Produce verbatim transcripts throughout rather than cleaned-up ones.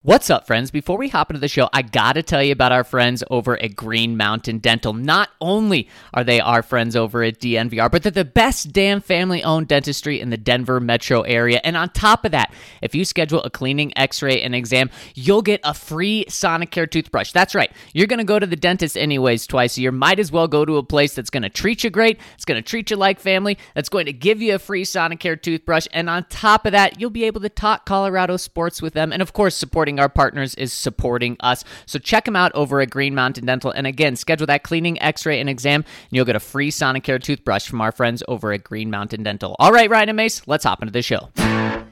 What's up, friends? Before we hop into the show, I gotta tell you about our friends over at Green Mountain Dental. Not only are they our friends over at D N V R, but they're the best damn family-owned dentistry in the Denver metro area. And on top of that, if you schedule a cleaning, x-ray, and exam, you'll get a free Sonicare toothbrush. That's right. You're gonna go to the dentist anyways twice a year. Might as well go to a place that's gonna treat you great, it's gonna treat you like family, that's going to give you a free Sonicare toothbrush. And on top of that, you'll be able to talk Colorado sports with them. And of course, supporting our partners is supporting us. So check them out over at Green Mountain Dental. And again, schedule that cleaning, x-ray, and exam, and you'll get a free Sonicare toothbrush from our friends over at Green Mountain Dental. All right, Ryan and Mace, let's hop into the show. Number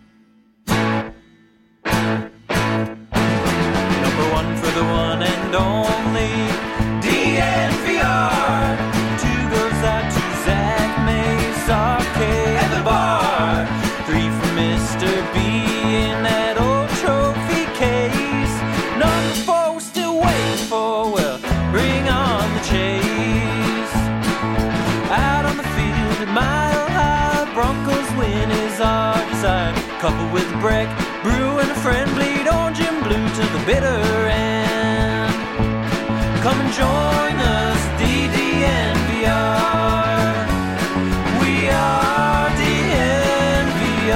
one for the one and only D N V R. Two goes out to Zach Mace, Arcade, and the bar. Three for Mister B in that old trophy case. Number four we're still waiting for, well, bring on the chase. Out on the field at Mile High, Broncos win is our desire. Coupled with a break, brew and a friend, bleed orange and blue to the bitter end. Come and join us, D D N V R. We are D N V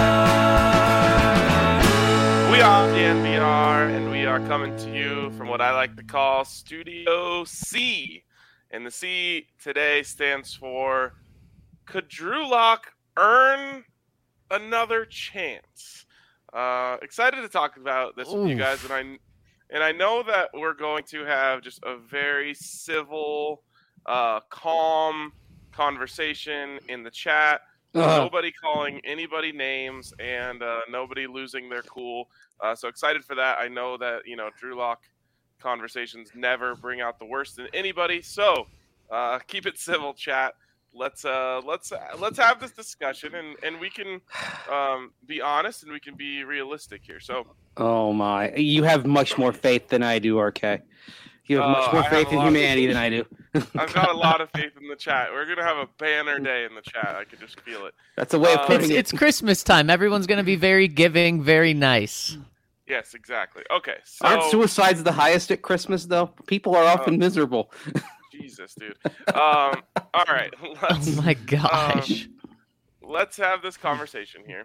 R. We are D N V R, and we are coming to you from what I like to call Studio C. And the C today stands for, could Drew Lock earn another chance? Uh, excited to talk about this with you guys, and I and I know that we're going to have just a very civil, uh, calm conversation in the chat. Uh-huh. Nobody calling anybody names and uh, nobody losing their cool. Uh, so excited for that. I know that, you know, Drew Lock conversations never bring out the worst in anybody. So uh, keep it civil, chat. Let's uh let's uh, let's have this discussion, and, and we can um, be honest and we can be realistic here. So, oh my, you have much more faith than I do, R K. You have uh, much more I faith in humanity than I do. I've got a lot of faith in the chat. We're gonna have a banner day in the chat. I can just feel it. That's a way of putting it's, it. It's Christmas time. Everyone's gonna be very giving, very nice. Yes, exactly. Okay, so aren't suicides the highest at Christmas though? People are often uh, miserable. Jesus, dude. Um, all right. Let's, oh my gosh. Um, let's have this conversation here.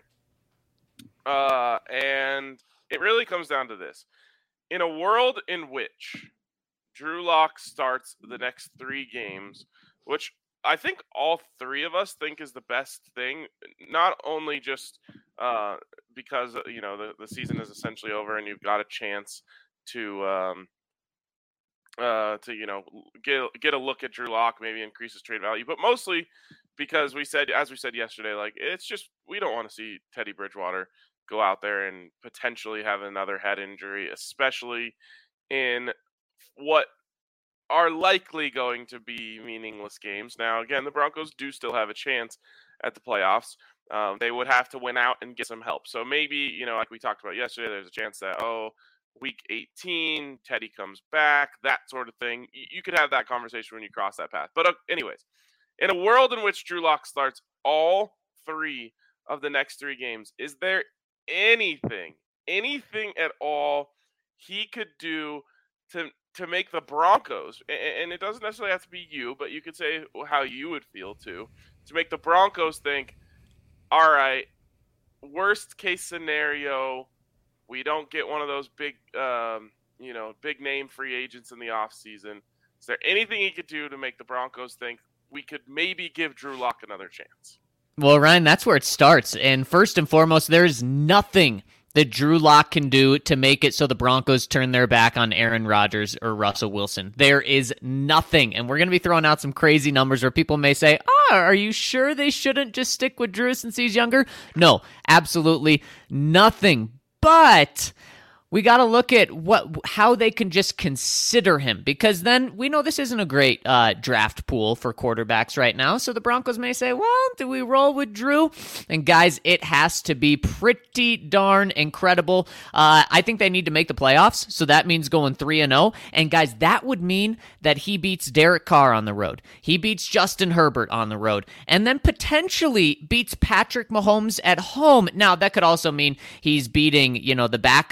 Uh, and it really comes down to this. In a world in which Drew Lock starts the next three games, which I think all three of us think is the best thing, not only just uh, because, you know, the, the season is essentially over and you've got a chance to um, – Uh, to you know get get a look at Drew Lock, maybe increase his trade value, but mostly because we said, as we said yesterday, like it's just we don't want to see Teddy Bridgewater go out there and potentially have another head injury, especially in what are likely going to be meaningless games. Now, again, the Broncos do still have a chance at the playoffs. Um, they would have to win out and get some help. So maybe, you know, like we talked about yesterday, there's a chance that oh. week eighteen, Teddy comes back, that sort of thing. You could have that conversation when you cross that path. But uh, anyways, in a world in which Drew Lock starts all three of the next three games, is there anything, anything at all he could do to to make the Broncos, and it doesn't necessarily have to be you, but you could say how you would feel too, to make the Broncos think, all right, worst case scenario, we don't get one of those big, um, you know, big name free agents in the offseason. Is there anything he could do to make the Broncos think we could maybe give Drew Lock another chance? Well, Ryan, that's where it starts. And first and foremost, there is nothing that Drew Lock can do to make it so the Broncos turn their back on Aaron Rodgers or Russell Wilson. There is nothing. And we're going to be throwing out some crazy numbers where people may say, oh, are you sure they shouldn't just stick with Drew since he's younger? No, absolutely nothing. But we got to look at what how they can just consider him, because then we know this isn't a great uh, draft pool for quarterbacks right now. So the Broncos may say, well, do we roll with Drew? And guys, it has to be pretty darn incredible. Uh, I think they need to make the playoffs, so that means going three and oh. And guys, that would mean that he beats Derek Carr on the road. He beats Justin Herbert on the road, and then potentially beats Patrick Mahomes at home. Now, that could also mean he's beating, you know, the backups of the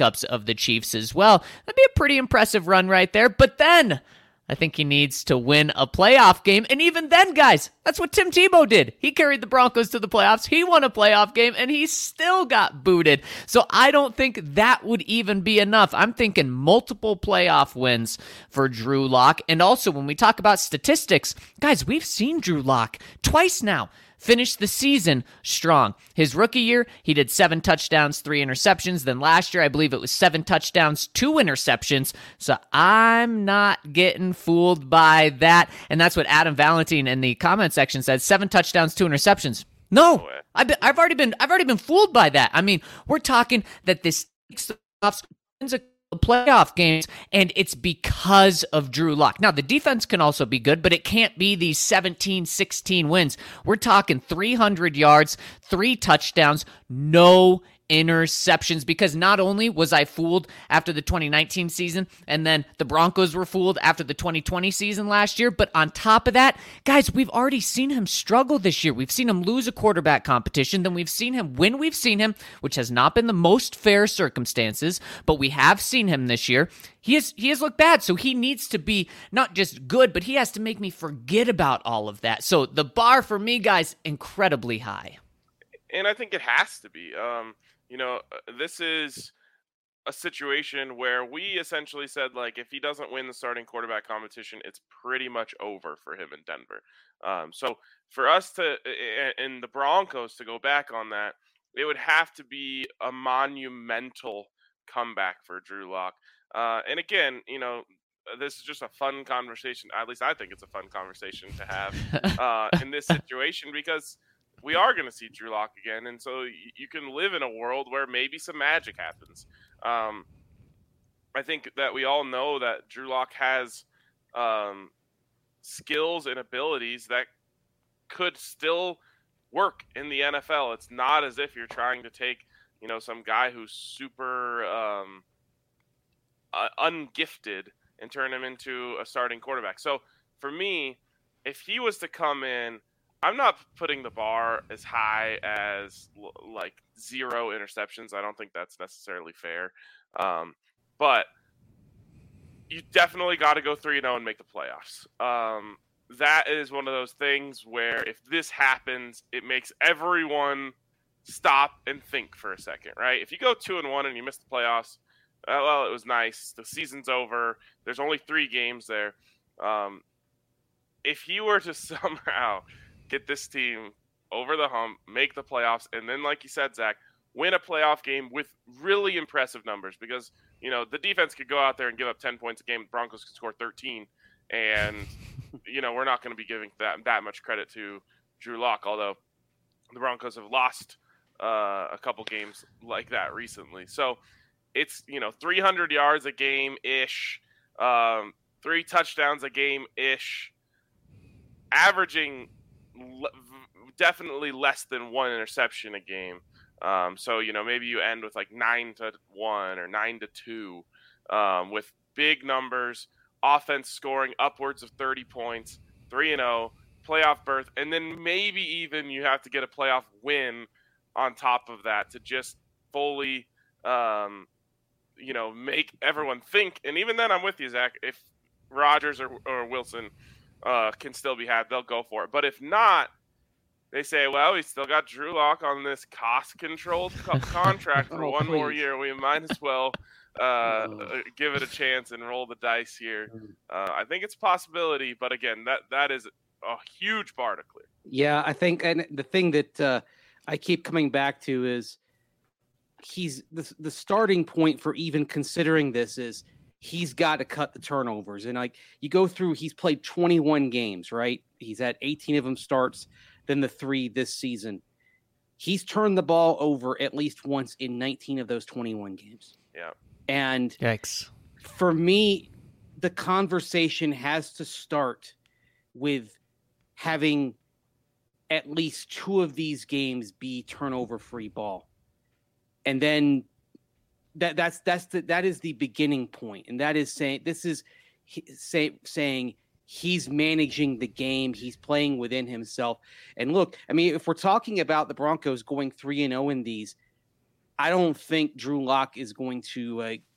the Chiefs as well. That'd be a pretty impressive run right there. But then I think he needs to win a playoff game. And even then, guys, that's what Tim Tebow did. He carried the Broncos to the playoffs. He won a playoff game, and he still got booted. So I don't think that would even be enough. I'm thinking multiple playoff wins for Drew Lock. And also, when we talk about statistics, guys, we've seen Drew Lock twice now finished the season strong. His rookie year, he did seven touchdowns, three interceptions. Then last year, I believe it was seven touchdowns, two interceptions. So I'm not getting fooled by that. And that's what Adam Valentine in the comment section said, seven touchdowns, two interceptions. No, I've, been, I've already been I've already been fooled by that. I mean, we're talking that this wins a playoff games, and it's because of Drew Lock. Now, the defense can also be good, but it can't be these seventeen, sixteen wins. We're talking three hundred yards, three touchdowns, no interceptions, because not only was I fooled after the twenty nineteen season, and then the Broncos were fooled after the twenty twenty season last year, but on top of that, guys, we've already seen him struggle this year. We've seen him lose a quarterback competition, then we've seen him win. We've seen him, which has not been the most fair circumstances, but we have seen him this year. He has, he has looked bad, so he needs to be not just good, but he has to make me forget about all of that. So the bar for me, guys, incredibly high. And I think it has to be. Um, You know, this is a situation where we essentially said, like, if he doesn't win the starting quarterback competition, it's pretty much over for him in Denver. Um, so for us to, and the Broncos to go back on that, it would have to be a monumental comeback for Drew Lock. Uh, and again, you know, this is just a fun conversation. At least I think it's a fun conversation to have uh, in this situation, because we are going to see Drew Lock again, and so you can live in a world where maybe some magic happens. Um, I think that we all know that Drew Lock has um, skills and abilities that could still work in the N F L. It's not as if you're trying to take, you know, some guy who's super um, uh, ungifted and turn him into a starting quarterback. So for me, if he was to come in, I'm not putting the bar as high as like zero interceptions. I don't think that's necessarily fair. Um, but you definitely got to go three and oh and make the playoffs. Um, that is one of those things where if this happens, it makes everyone stop and think for a second, right? If you go two and one and you miss the playoffs, uh, well, it was nice. The season's over. There's only three games there. Um, if he were to somehow get this team over the hump, make the playoffs, and then, like you said, Zach, win a playoff game with really impressive numbers, because, you know, the defense could go out there and give up ten points a game. The Broncos could score thirteen, and, you know, we're not going to be giving that, that much credit to Drew Lock, although the Broncos have lost uh, a couple games like that recently. So it's, you know, three hundred yards a game-ish, um, three touchdowns a game-ish, averaging definitely less than one interception a game. Um, so, you know, maybe you end with like nine to one or nine to two um, with big numbers, offense scoring upwards of thirty points, three and oh, playoff berth. And then maybe even you have to get a playoff win on top of that to just fully, um, you know, make everyone think. And even then I'm with you, Zach, if Rodgers or, or Wilson Uh, can still be had, they'll go for it. But if not, they say, well, we still got Drew Lock on this cost-controlled co- contract for oh, one please. more year. We might as well uh, oh. give it a chance and roll the dice here. Uh, I think it's a possibility, but again, that that is a huge bar to clear. Yeah, I think, and the thing that uh, I keep coming back to is he's the, the starting point for even considering this is he's got to cut the turnovers. And like you go through, he's played twenty-one games, right? He's had eighteen of them starts, then the three this season. He's turned the ball over at least once in nineteen of those twenty-one games. Yeah. And Yikes. For me, the conversation has to start with having at least two of these games be turnover-free ball. And then That that's that's the, that is the beginning point, and that is saying this is say, saying he's managing the game, he's playing within himself. And look, I mean, if we're talking about the Broncos going three and zero in these, I don't think Drew Lock is going to uh,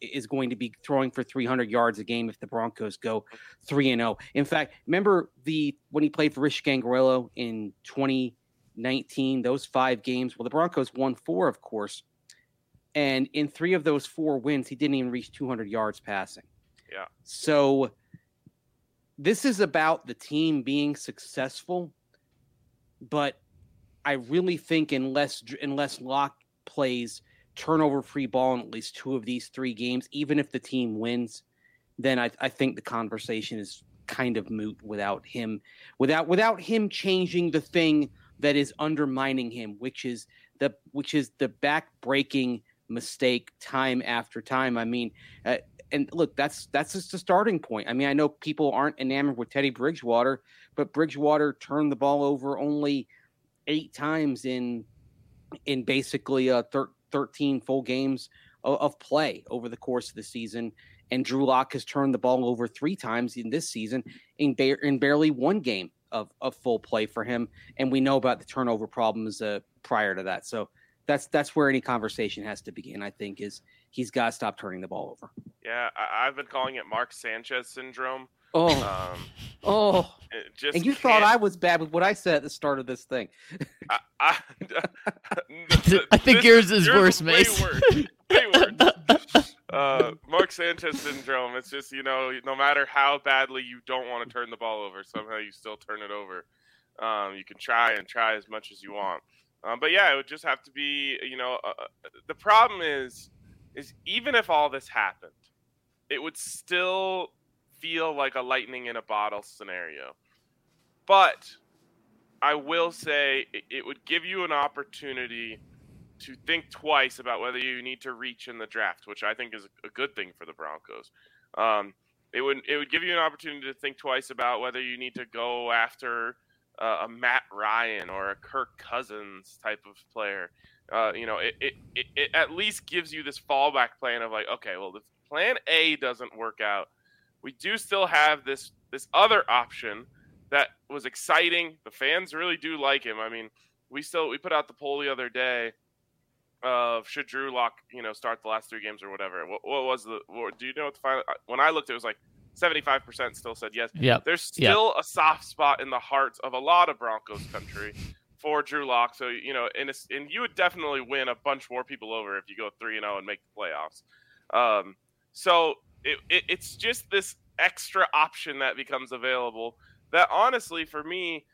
is going to be throwing for three hundred yards a game if the Broncos go three and oh. In fact, remember the when he played for Rich Gangrello in twenty nineteen, those five games? Well, the Broncos won four, of course. And in three of those four wins, he didn't even reach two hundred yards passing. Yeah. So this is about the team being successful, but I really think unless unless Locke plays turnover-free ball in at least two of these three games, even if the team wins, then I, I think the conversation is kind of moot without him, without without him changing the thing that is undermining him, which is the which is the back-breaking mistake time after time. I mean, uh, and look, that's that's just a starting point. I mean, I know people aren't enamored with Teddy Bridgewater, but Bridgewater turned the ball over only eight times in in basically uh, thir- thirteen full games of, of play over the course of the season. And Drew Lock has turned the ball over three times in this season in, ba- in barely one game of, of full play for him. And we know about the turnover problems uh, prior to that. So that's that's where any conversation has to begin, I think, is he's got to stop turning the ball over. Yeah, I- I've been calling it Mark Sanchez syndrome. Oh, Um, oh. it just And you can't- thought I was bad with what I said at the start of this thing. I, I, I think this- yours is yours worse, way Mace. worse. Way worse. Uh, Mark Sanchez syndrome. It's just, you know, no matter how badly you don't want to turn the ball over, somehow you still turn it over. Um, you can try and try as much as you want. Um, but yeah, it would just have to be, you know, uh, the problem is, is even if all this happened, it would still feel like a lightning in a bottle scenario. But I will say it, it would give you an opportunity to think twice about whether you need to reach in the draft, which I think is a good thing for the Broncos. Um, it would it would give you an opportunity to think twice about whether you need to go after uh, a Matt Ryan or a Kirk Cousins type of player. Uh, you know, it, it, it, it at least gives you this fallback plan of like, okay, well, if plan A doesn't work out, we do still have this this other option that was exciting. The fans really do like him. I mean, we still we put out the poll the other day of should Drew Lock, you know, start the last three games or whatever. What, what was the? What, do you know what the final? When I looked, it was like seventy-five percent still said yes. Yep. There's still a soft spot in the hearts of a lot of Broncos country for Drew Lock. So you know, and it's, and you would definitely win a bunch more people over if you go three and zero and make the playoffs. Um, so it, it it's just this extra option that becomes available. That honestly, for me,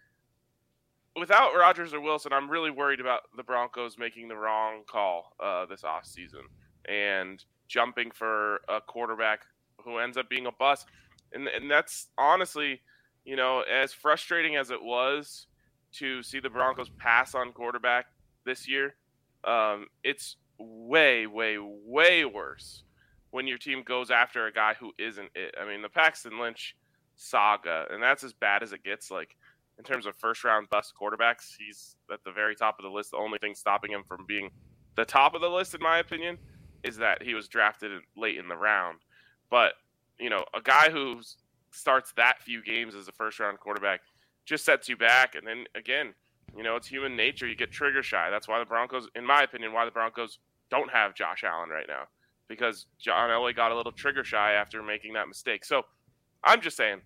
without Rodgers or Wilson, I'm really worried about the Broncos making the wrong call uh, this offseason and jumping for a quarterback who ends up being a bust. And, and that's honestly, you know, as frustrating as it was to see the Broncos pass on quarterback this year, um, it's way, way, way worse when your team goes after a guy who isn't it. I mean, the Paxton Lynch saga, and that's as bad as it gets. Like, in terms of first-round bust quarterbacks, he's at the very top of the list. The only thing stopping him from being the top of the list, in my opinion, is that he was drafted late in the round. But, you know, a guy who starts that few games as a first-round quarterback just sets you back. And then, again, you know, it's human nature. You get trigger shy. That's why the Broncos, in my opinion, why the Broncos don't have Josh Allen right now. Because John Elway got a little trigger shy after making that mistake. So, I'm just saying,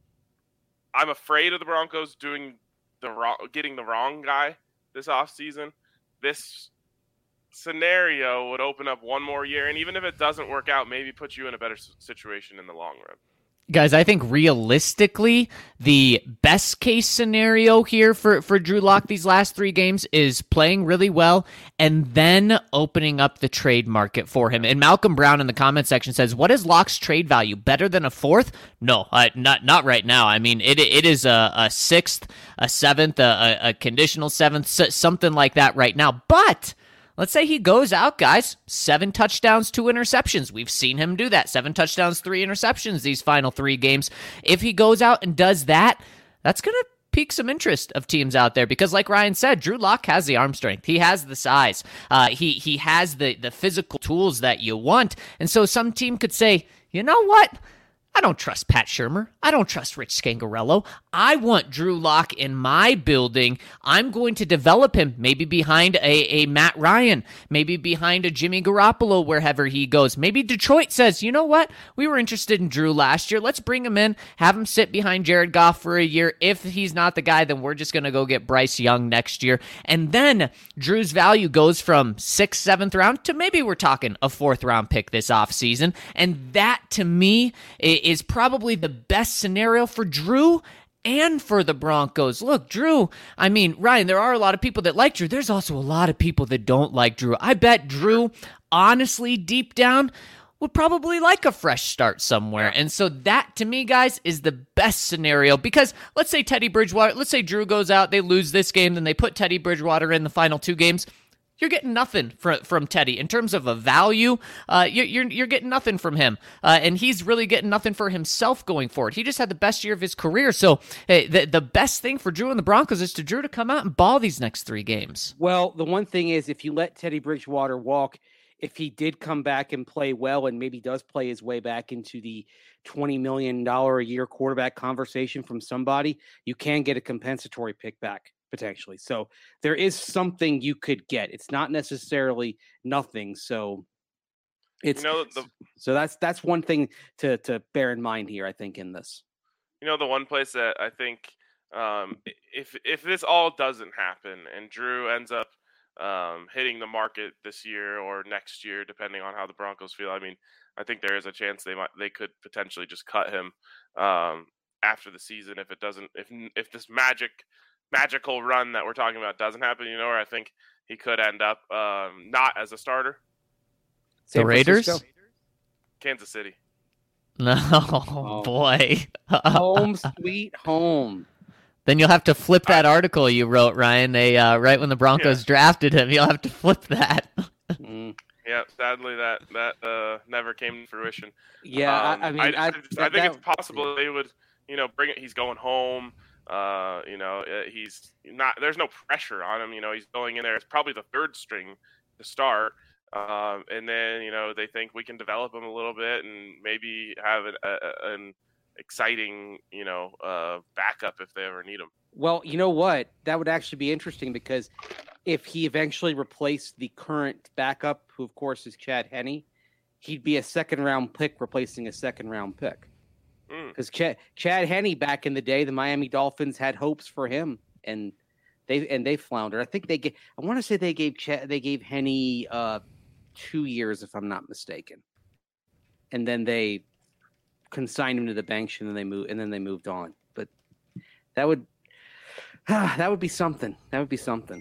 I'm afraid of the Broncos doing the wrong, getting the wrong guy this offseason. This scenario would open up one more year, and even if it doesn't work out, maybe put you in a better situation in the long run. Guys, I think realistically, the best case scenario here for, for Drew Lock these last three games is playing really well and then opening up the trade market for him. And Malcolm Brown in the comment section says, what is Lock's trade value? Better than a fourth? No, uh, not not right now. I mean, it it is a, a sixth, a seventh, a, a conditional seventh, something like that right now. But let's say he goes out, guys, seven touchdowns, two interceptions. We've seen him do that. Seven touchdowns, three interceptions these final three games. If he goes out and does that, that's going to pique some interest of teams out there because, like Ryan said, Drew Lock has the arm strength. He has the size. Uh, he he has the, the physical tools that you want. And so some team could say, you know what? I don't trust Pat Shurmur. I don't trust Rich Scangarello. I want Drew Lock in my building. I'm going to develop him maybe behind a, a Matt Ryan, maybe behind a Jimmy Garoppolo wherever he goes. Maybe Detroit says, you know what? We were interested in Drew last year. Let's bring him in, have him sit behind Jared Goff for a year. If he's not the guy, then we're just going to go get Bryce Young next year. And then Drew's value goes from sixth, seventh round to maybe we're talking a fourth round pick this offseason. And that, to me, is probably the best scenario for Drew and for the Broncos. Look, Drew, I mean, Ryan, there are a lot of people that like Drew. There's also a lot of people that don't like Drew. I bet Drew, honestly, deep down, would probably like a fresh start somewhere. And so that, to me, guys, is the best scenario. Because let's say Teddy Bridgewater, let's say Drew goes out, they lose this game, then they put Teddy Bridgewater in the final two games. You're getting nothing from from Teddy in terms of a value. Uh, you're, you're you're getting nothing from him, uh, and he's really getting nothing for himself going forward. He just had the best year of his career. So hey, the the best thing for Drew and the Broncos is to Drew to come out and ball these next three games. Well, the one thing is, if you let Teddy Bridgewater walk, if he did come back and play well, and maybe does play his way back into the twenty million dollars a year quarterback conversation from somebody, you can get a compensatory pick back. Potentially. So there is something you could get. It's not necessarily nothing. So it's, you know, the, so that's, that's one thing to, to bear in mind here, I think, in this. You know, the one place that I think um, if, if this all doesn't happen and Drew ends up um, hitting the market this year or next year, depending on how the Broncos feel, I mean, I think there is a chance they might, they could potentially just cut him um, after the season. If it doesn't, if, if this magic, magical run that we're talking about doesn't happen, you know, where I think he could end up um, not as a starter. The Raiders? Kansas City. No, oh. boy. Home sweet home. Then you'll have to flip that article you wrote, Ryan. They uh, right when the Broncos yeah. drafted him, you'll have to flip that. mm. Yeah, sadly that that uh, never came to fruition. Yeah, um, I, I mean, I, I, I, just, that, I think that, it's possible yeah. they would, you know, bring it. He's going home. Uh, you know, he's not. There's no pressure on him. You know, he's going in there. It's probably the third string to start, um, and then you know they think we can develop him a little bit and maybe have an, a, an exciting, you know, uh, backup if they ever need him. Well, you know what? That would actually be interesting because if he eventually replaced the current backup, who of course is Chad Henne, he'd be a second round pick replacing a second round pick. Because Ch- Chad Henne back in the day, the Miami Dolphins had hopes for him, and they and they floundered. I think they gave. I want to say they gave Ch- they gave Henne uh, two years, if I'm not mistaken, and then they consigned him to the bench, and then they moved and then they moved on. But that would that would be something. That would be something.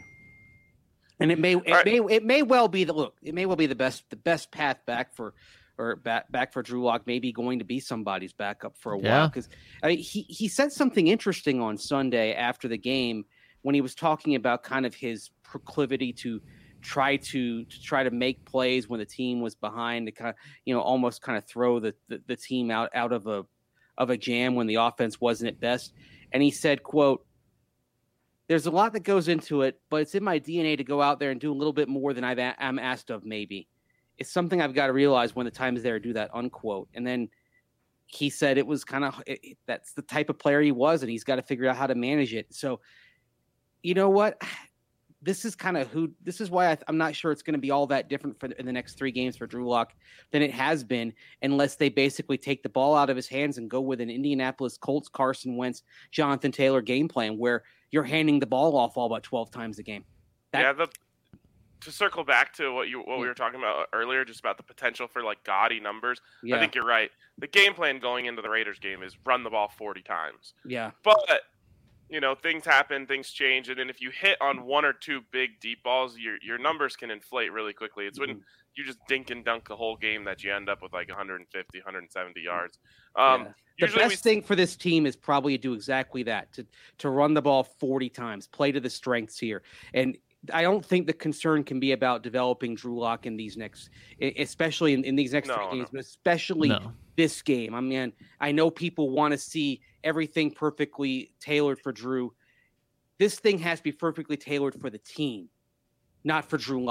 And it may it right. may it may well be the look. It may well be the best the best path back for. Or back back for Drew Lock, maybe going to be somebody's backup for a yeah. while. Because I mean, he he said something interesting on Sunday after the game when he was talking about kind of his proclivity to try to to try to make plays when the team was behind, to kind of, you know, almost kind of throw the, the, the team out out of a of a jam when the offense wasn't at best. And he said, "quote There's a lot that goes into it, but it's in my D N A to go out there and do a little bit more than I've a- I'm asked of. Maybe it's something I've got to realize when the time is there to do that." Unquote. And then he said it was kind of it, that's the type of player he was, and he's got to figure out how to manage it. So, you know what? This is kind of who. This is why I, I'm not sure it's going to be all that different for the, in the next three games for Drew Lock than it has been, unless they basically take the ball out of his hands and go with an Indianapolis Colts, Carson Wentz, Jonathan Taylor game plan where you're handing the ball off all about twelve times a game. That, yeah, the, to circle back to what you what we were talking about earlier, just about the potential for like gaudy numbers. Yeah. I think you're right. The game plan going into the Raiders game is run the ball forty times. Yeah. But, you know, things happen, things change, and then if you hit on one or two big deep balls, your your numbers can inflate really quickly. It's when mm-hmm. you just dink and dunk the whole game that you end up with like one fifty, one seventy yards. Um, yeah. The best we... thing for this team is probably to do exactly that, to to run the ball forty times, play to the strengths here. And I don't think the concern can be about developing Drew Lock in these next, especially in, in these next no, three games, no. but especially no. this game. I mean, I know people want to see everything perfectly tailored for Drew. This thing has to be perfectly tailored for the team, not for Drew Lock.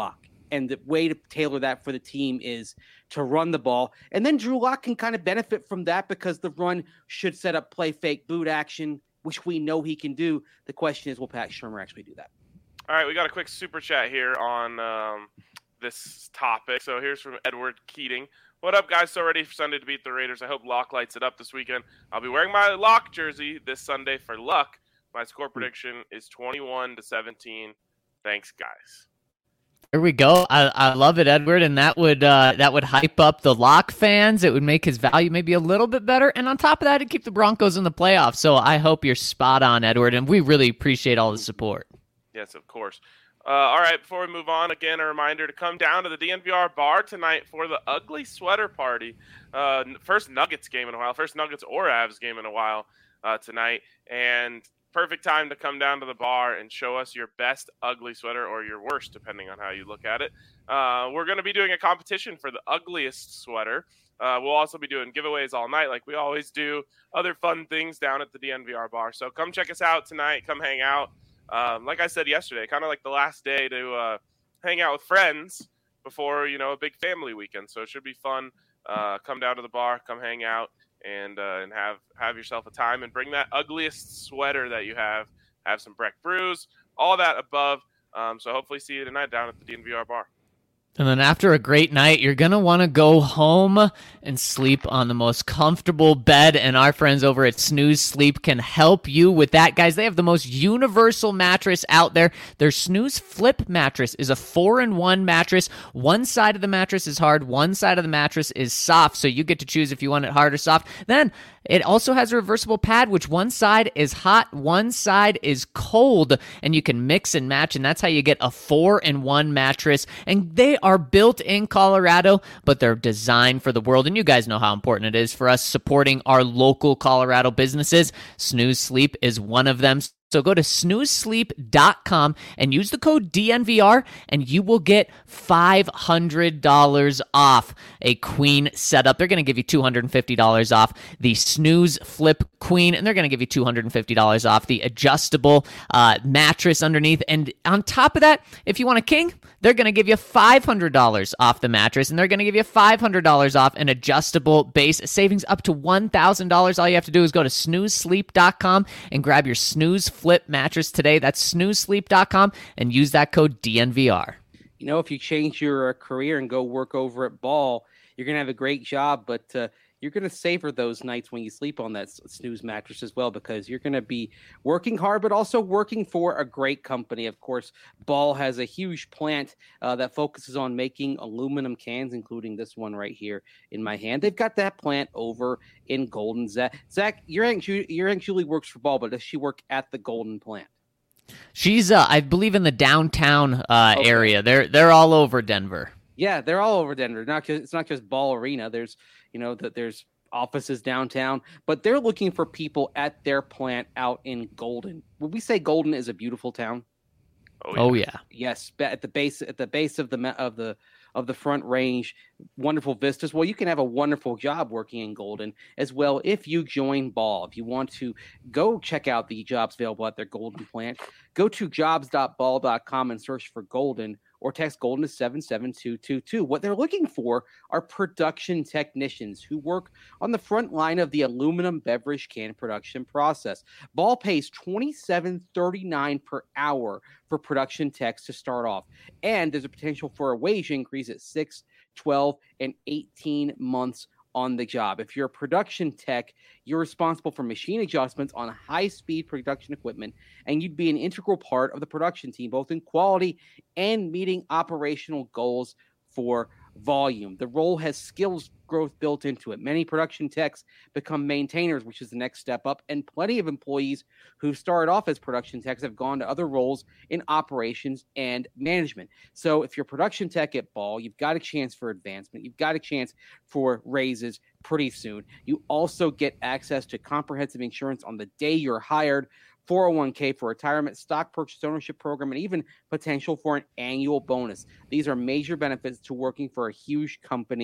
And the way to tailor that for the team is to run the ball. And then Drew Lock can kind of benefit from that because the run should set up play fake boot action, which we know he can do. The question is, will Pat Shurmur actually do that? All right, we got a quick super chat here on um, this topic. So here's from Edward Keating. What up, guys? So ready for Sunday to beat the Raiders. I hope Lock lights it up this weekend. I'll be wearing my Lock jersey this Sunday for luck. My score prediction is twenty-one to seventeen. Thanks, guys. There we go. I, I love it, Edward, and that would uh, that would hype up the Lock fans. It would make his value maybe a little bit better, and on top of that, it'd keep the Broncos in the playoffs. So I hope you're spot on, Edward, and we really appreciate all the support. Yes, of course. Uh, all right, before we move on, again, a reminder to come down to the D N V R bar tonight for the Ugly Sweater Party. Uh, first Nuggets game in a while, first Nuggets or Avs game in a while uh, tonight, and perfect time to come down to the bar and show us your best ugly sweater or your worst, depending on how you look at it. Uh, we're going to be doing a competition for the ugliest sweater. Uh, we'll also be doing giveaways all night like we always do, other fun things down at the D N V R bar. So come check us out tonight. Come hang out. Um, like I said yesterday, kind of like the last day to uh, hang out with friends before, you know, a big family weekend. So it should be fun. Uh, come down to the bar, come hang out. And uh, and have have yourself a time and bring that ugliest sweater that you have. Have some Breck brews, all that above. Um, so hopefully see you tonight down at the D N V R bar. And then after a great night, you're going to want to go home and sleep on the most comfortable bed. And our friends over at Snooze Sleep can help you with that. Guys, they have the most universal mattress out there. Their Snooze Flip mattress is a four-in-one mattress. One side of the mattress is hard. One side of the mattress is soft. So you get to choose if you want it hard or soft. Then it also has a reversible pad, which one side is hot, one side is cold, and you can mix and match, and that's how you get a four-in-one mattress. And they are built in Colorado, but they're designed for the world, and you guys know how important it is for us supporting our local Colorado businesses. Snooze Sleep is one of them. So go to snooze sleep dot com and use the code D N V R, and you will get five hundred dollars off a queen setup. They're going to give you two hundred fifty dollars off the Snooze Flip Queen, and they're going to give you two hundred fifty dollars off the adjustable uh, mattress underneath. And on top of that, if you want a king, they're going to give you five hundred dollars off the mattress, and they're going to give you five hundred dollars off an adjustable base, savings up to one thousand dollars. All you have to do is go to snooze sleep dot com and grab your Snooze Flip mattress today. That's snooze sleep dot com and use that code D N V R. You know, if you change your uh, career and go work over at Ball, you're going to have a great job, but uh, you're going to savor those nights when you sleep on that Snooze mattress as well, because you're going to be working hard, but also working for a great company. Of course, Ball has a huge plant uh, that focuses on making aluminum cans, including this one right here in my hand. They've got that plant over in Golden. Zach, Zach your Aunt, Ju- your Aunt Julie works for Ball, but does she work at the Golden plant? She's, uh, I believe, in the downtown uh, okay. area. They're they're all over Denver. Yeah, they're all over Denver. Not just, it's not just Ball Arena. There's, you know, that there's offices downtown, but they're looking for people at their plant out in Golden. Would we say Golden is a beautiful town? Oh yeah. Oh, yeah. Yes, at the base at the base of the of the of the Front Range, wonderful vistas. Well, you can have a wonderful job working in Golden as well if you join Ball. If you want to go check out the jobs available at their Golden plant, go to jobs dot ball dot com and search for Golden, or text Golden to seven seven two two two. What they're looking for are production technicians who work on the front line of the aluminum beverage can production process. Ball pays twenty-seven thirty-nine per hour for production techs to start off, and there's a potential for a wage increase at six, twelve, and eighteen months on the job. If you're a production tech, you're responsible for machine adjustments on high-speed production equipment, and you'd be an integral part of the production team, both in quality and meeting operational goals for volume. The role has skills growth built into it. Many production techs become maintainers, which is the next step up, and plenty of employees who started off as production techs have gone to other roles in operations and management. So if you're a production tech at Ball, you've got a chance for advancement. You've got a chance for raises pretty soon. You also get access to comprehensive insurance on the day you're hired, four oh one k for retirement, stock purchase ownership program, and even potential for an annual bonus. These are major benefits to working for a huge company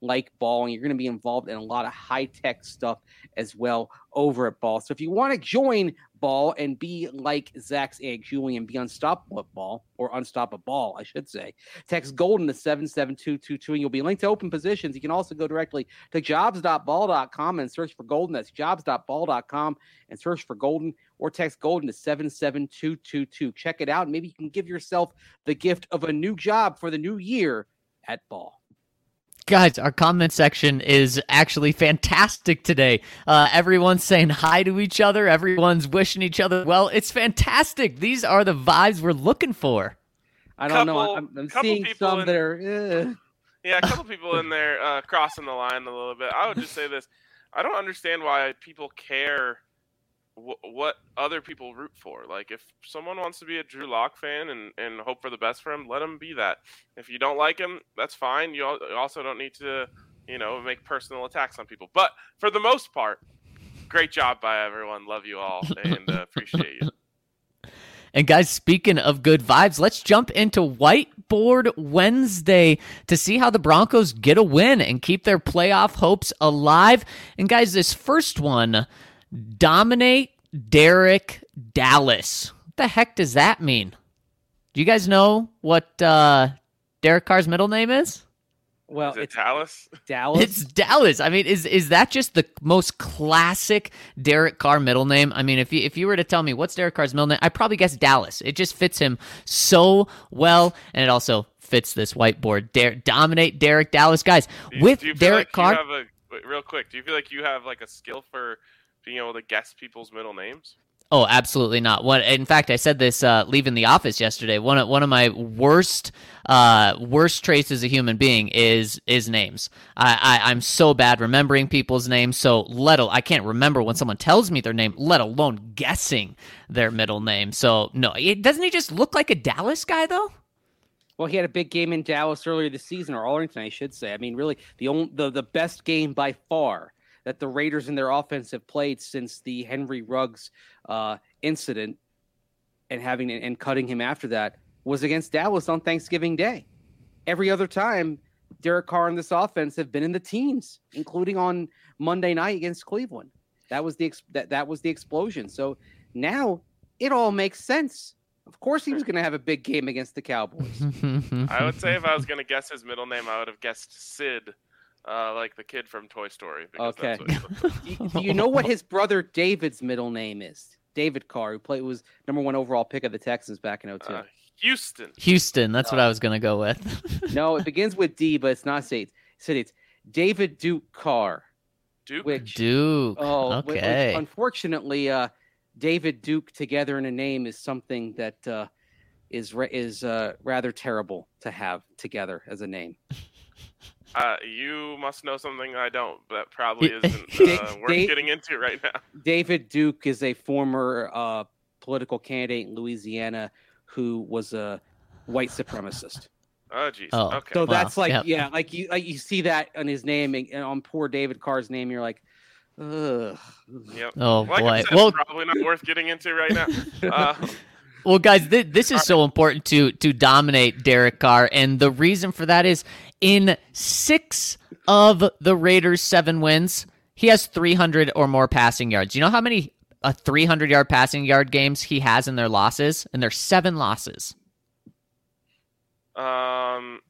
like Ball, and you're going to be involved in a lot of high-tech stuff as well over at Ball. So if you want to join Ball and be like Zach's Aunt Julie and be unstoppable at Ball, or unstoppable, I should say, text Golden to seven seven two two two, and you'll be linked to open positions. You can also go directly to jobs dot ball dot com and search for Golden. That's jobs dot ball dot com and search for Golden, or text Golden to seven seven two two two. Check it out, and maybe you can give yourself the gift of a new job for the new year at Ball. Guys, our comment section is actually fantastic today. Uh, everyone's saying hi to each other. Everyone's wishing each other well. It's fantastic. These are the vibes we're looking for. I don't Couple- know. I'm, I'm couple seeing people some in- that are. Uh, Yeah, a couple people in there uh, crossing the line a little bit. I would just say this: I don't understand why people care w- what other people root for. Like, if someone wants to be a Drew Lock fan and, and hope for the best for him, let him be that. If you don't like him, that's fine. You al- also don't need to, you know, make personal attacks on people. But for the most part, great job by everyone. Love you all and uh, appreciate you. And guys, speaking of good vibes, let's jump into Whiteboard Wednesday to see how the Broncos get a win and keep their playoff hopes alive. And guys, this first one, dominate Derek Dallas. What the heck does that mean? Do you guys know what uh, Derek Carr's middle name is? well, Is it it's Dallas? Dallas. It's Dallas. I mean, is is that just the most classic Derek Carr middle name? I mean, if you if you were to tell me what's Derek Carr's middle name, I'd probably guess Dallas. It just fits him so well, and it also fits this whiteboard. Dare, dominate Derek Dallas, guys. Do you, With do you feel Derek like Carr, you have a, wait, real quick, do you feel like you have like a skill for being able to guess people's middle names? oh, absolutely not. What? In fact, I said this uh, leaving the office yesterday. One of one of my worst uh, worst traits as a human being is is names. I, I I'm so bad remembering people's names. So let al- I can't remember when someone tells me their name, let alone guessing their middle name. So no, it, doesn't he just look like a Dallas guy though? Well, he had a big game in Dallas earlier this season, or Arlington, I should say. I mean, really, the only, the the best game by far that the Raiders and their offense have played since the Henry Ruggs uh, incident, and having and cutting him after that, was against Dallas on Thanksgiving Day. Every other time, Derek Carr and this offense have been in the teens, including on Monday night against Cleveland. That was the ex- that that was the explosion. So now it all makes sense. Of course, he was going to have a big game against the Cowboys. I would say if I was going to guess his middle name, I would have guessed Sid, uh, like the kid from Toy Story. because Okay. that's what he looks like. do, you, do you know what his brother David's middle name is? David Carr, who played was number one overall pick of the Texans back in oh two. Uh, Houston. Houston, that's what I was gonna go with. No, it begins with D, but it's not Sid. Sid, it's David Duke Carr. Duke. Which Duke. oh, which, okay. unfortunately, uh, David Duke together in a name is something that uh, is ra- is uh, rather terrible to have together as a name. Uh, you must know something I don't, but that probably Da- isn't uh, worth Da- getting into right now. David Duke is a former uh, political candidate in Louisiana who was a white supremacist. Oh, jeez. Oh. Okay. So Wow, that's like, yep. yeah, like you like you see that on his name and, and on poor David Carr's name, you're like, ugh. Yep. Oh Like I boy. said, Well, probably not worth getting into right now. Uh, Well, guys, th- this is so important to to dominate Derek Carr, and the reason for that is in six of the Raiders' seven wins, he has three hundred or more passing yards. You know how many uh, three hundred yard passing yard games he has in their losses? And there's seven losses. um,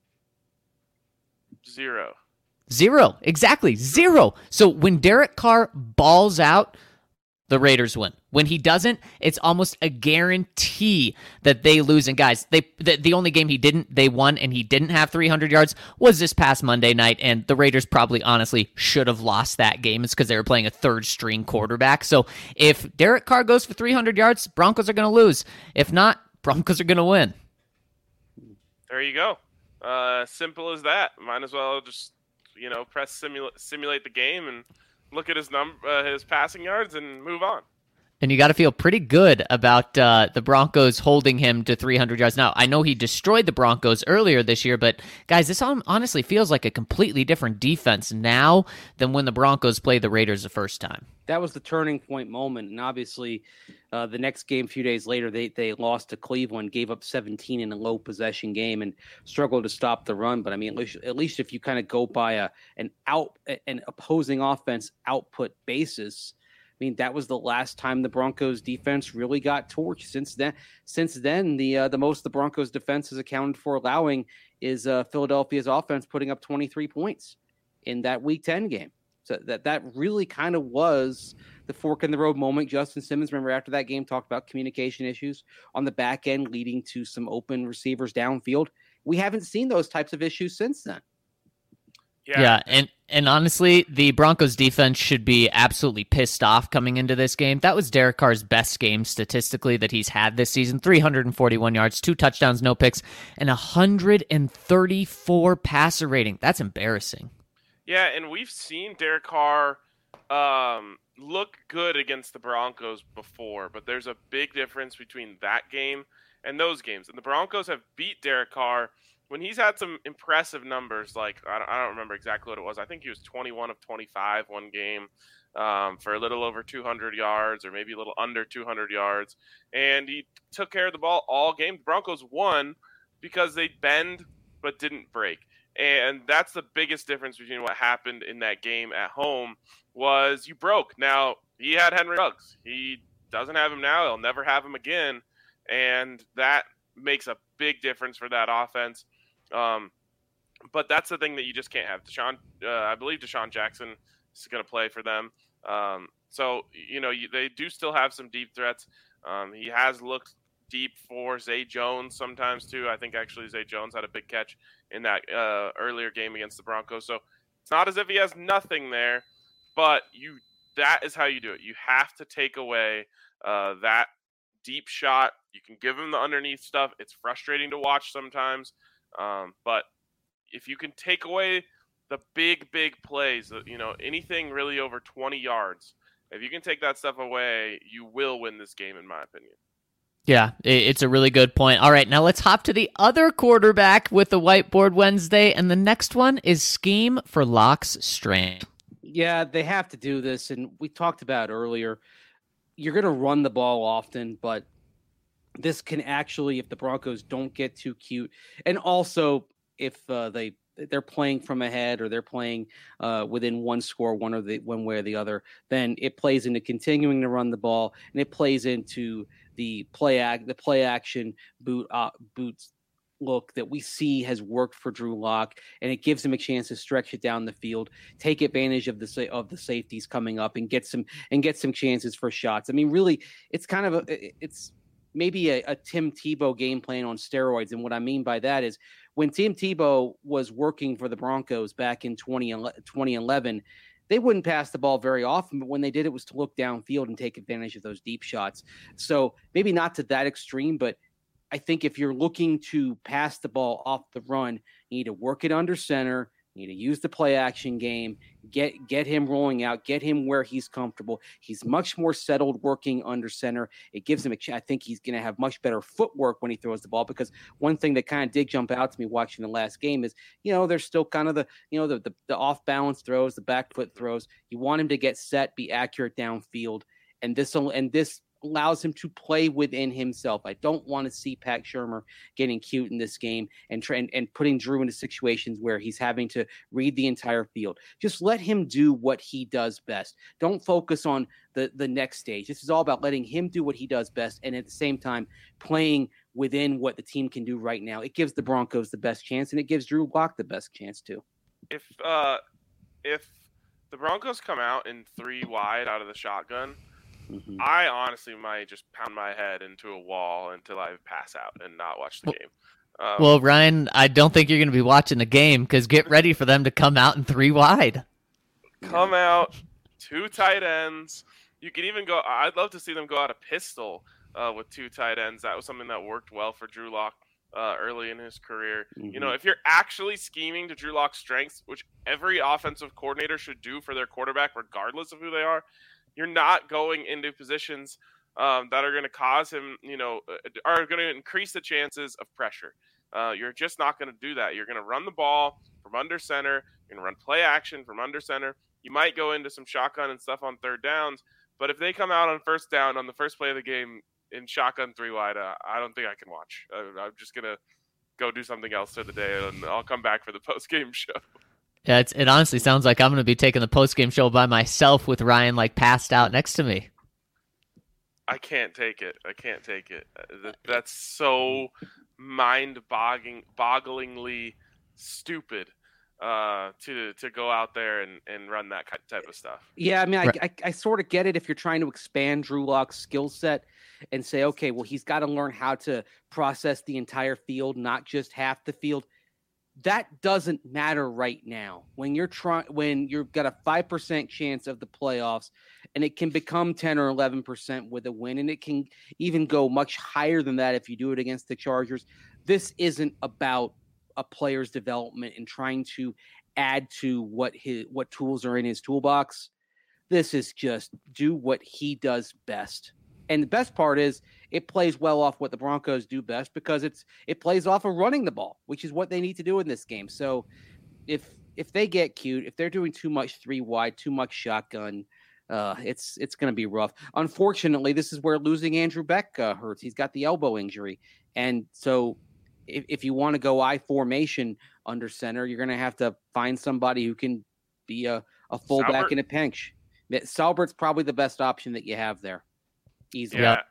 zero. Zero. Exactly. Zero. So when Derek Carr balls out, the Raiders win. When he doesn't, it's almost a guarantee that they lose. And guys, they the, the only game he didn't, they won, and he didn't have three hundred yards was this past Monday night. And the Raiders probably honestly should have lost that game. It's because they were playing a third string quarterback. So if Derek Carr goes for three hundred yards, Broncos are going to lose. If not, Broncos are going to win. There you go. Uh, simple as that. Might as well just, you know, press simulate simulate the game and look at his num uh, his passing yards and move on. And you got to feel pretty good about uh, the Broncos holding him to three hundred yards. Now, I know he destroyed the Broncos earlier this year, but guys, this honestly feels like a completely different defense now than when the Broncos played the Raiders the first time. That was the turning point moment. And obviously, uh, the next game, a few days later, they, they lost to Cleveland, gave up seventeen in a low possession game and struggled to stop the run. But I mean, at least, at least if you kind of go by a, an out, an opposing offense output basis, I mean, that was the last time the Broncos defense really got torched. Since then, since then, the uh, the most the Broncos defense has accounted for allowing is uh, Philadelphia's offense putting up twenty-three points in that Week ten game. So that that really kind of was the fork in the road moment. Justin Simmons, remember after that game, talked about communication issues on the back end leading to some open receivers downfield. We haven't seen those types of issues since then. Yeah. yeah, and and honestly, the Broncos defense should be absolutely pissed off coming into this game. That was Derek Carr's best game statistically that he's had this season. three hundred forty-one yards, two touchdowns, no picks, and one hundred thirty-four passer rating. That's embarrassing. Yeah, and we've seen Derek Carr um, look good against the Broncos before, but there's a big difference between that game and those games. And the Broncos have beat Derek Carr when he's had some impressive numbers, like, I don't, I don't remember exactly what it was. I think he was twenty-one of twenty-five one game um, for a little over two hundred yards or maybe a little under two hundred yards. And he took care of the ball all game. The Broncos won because they bend but didn't break. And that's the biggest difference between what happened in that game at home was you broke. Now, he had Henry Ruggs. He doesn't have him now. He'll never have him again. And that makes a big difference for that offense. Um, but that's the thing that you just can't have. Deshaun, uh, I believe Deshaun Jackson is going to play for them. Um, so, you know, you, they do still have some deep threats. Um, he has looked deep for Zay Jones sometimes too. I think actually Zay Jones had a big catch in that uh, earlier game against the Broncos. So it's not as if he has nothing there, but you that is how you do it. You have to take away uh, that deep shot. You can give him the underneath stuff. It's frustrating to watch sometimes. Um, but if you can take away the big, big plays, you know, anything really over twenty yards, if you can take that stuff away, you will win this game, in my opinion. Yeah, it's a really good point. All right, now let's hop to the other quarterback with the Whiteboard Wednesday, and the next one is scheme for Locke's strength. Yeah, they have to do this, and we talked about earlier. You're going to run the ball often, but this can actually, if the Broncos don't get too cute, and also if uh, they they're playing from ahead or they're playing uh, within one score, one or the one way or the other, then it plays into continuing to run the ball, and it plays into the play act, the play action boot uh, boots look that we see has worked for Drew Lock, and it gives him a chance to stretch it down the field, take advantage of the of the safeties coming up, and get some and get some chances for shots. I mean, really, it's kind of a it's. maybe a, a Tim Tebow game plan on steroids. And what I mean by that is when Tim Tebow was working for the Broncos back in twenty eleven, they wouldn't pass the ball very often, but when they did, it was to look downfield and take advantage of those deep shots. So maybe not to that extreme, but I think if you're looking to pass the ball off the run, you need to work it under center. You need to use the play action game, get get him rolling out, get him where he's comfortable. He's much more settled working under center. It gives him a chance. I think he's going to have much better footwork when he throws the ball, because one thing that kind of did jump out to me watching the last game is, you know, there's still kind of the, you know, the, the, the off balance throws, the back foot throws. You want him to get set, be accurate downfield. And this, and this, allows him to play within himself. I don't want to see Pat Shurmur getting cute in this game and, try, and and putting Drew into situations where he's having to read the entire field. Just let him do what he does best. Don't focus on the, the next stage. This is all about letting him do what he does best, and at the same time playing within what the team can do right now. It gives the Broncos the best chance, and it gives Drew Lock the best chance too. If uh, if the Broncos come out in three wide out of the shotgun, Mm-hmm. I honestly might just pound my head into a wall until I pass out and not watch the game. Um, well, Ryan, I don't think you're going to be watching the game, because get ready for them to come out in three wide. Come out, two tight ends. You could even go – I'd love to see them go out a pistol uh, with two tight ends. That was something that worked well for Drew Lock uh, early in his career. Mm-hmm. You know, if you're actually scheming to Drew Lock's strengths, which every offensive coordinator should do for their quarterback, regardless of who they are, you're not going into positions um, that are going to cause him, you know, are going to increase the chances of pressure. Uh, you're just not going to do that. You're going to run the ball from under center. You're going to run play action from under center. You might go into some shotgun and stuff on third downs, but if they come out on first down on the first play of the game in shotgun three wide, uh, I don't think I can watch. I, I'm just going to go do something else for the day, and I'll come back for the post-game show. Yeah, it's, it honestly sounds like I'm going to be taking the post-game show by myself with Ryan like passed out next to me. I can't take it. I can't take it. That, that's so mind-boggling, bogglingly stupid uh, to to go out there and, and run that type of stuff. Yeah, I mean, I, Right. I, I sort of get it if you're trying to expand Drew Lock's skill set and say, okay, well, he's got to learn how to process the entire field, not just half the field. That doesn't matter right now. When you're trying, when you've got a five percent chance of the playoffs, and it can become ten or eleven percent with a win, and it can even go much higher than that if you do it against the Chargers. This isn't about a player's development and trying to add to what his what tools are in his toolbox. This is just do what he does best. And the best part is it plays well off what the Broncos do best because it's it plays off of running the ball, which is what they need to do in this game. So if if they get cute, if they're doing too much three wide, too much shotgun, uh, it's it's going to be rough. Unfortunately, this is where losing Andrew Beck uh, hurts. He's got the elbow injury, and so if, if you want to go I formation under center, you're going to have to find somebody who can be a, a fullback Salbert? in a pinch. Salbert's probably the best option that you have there. Easily. Yeah.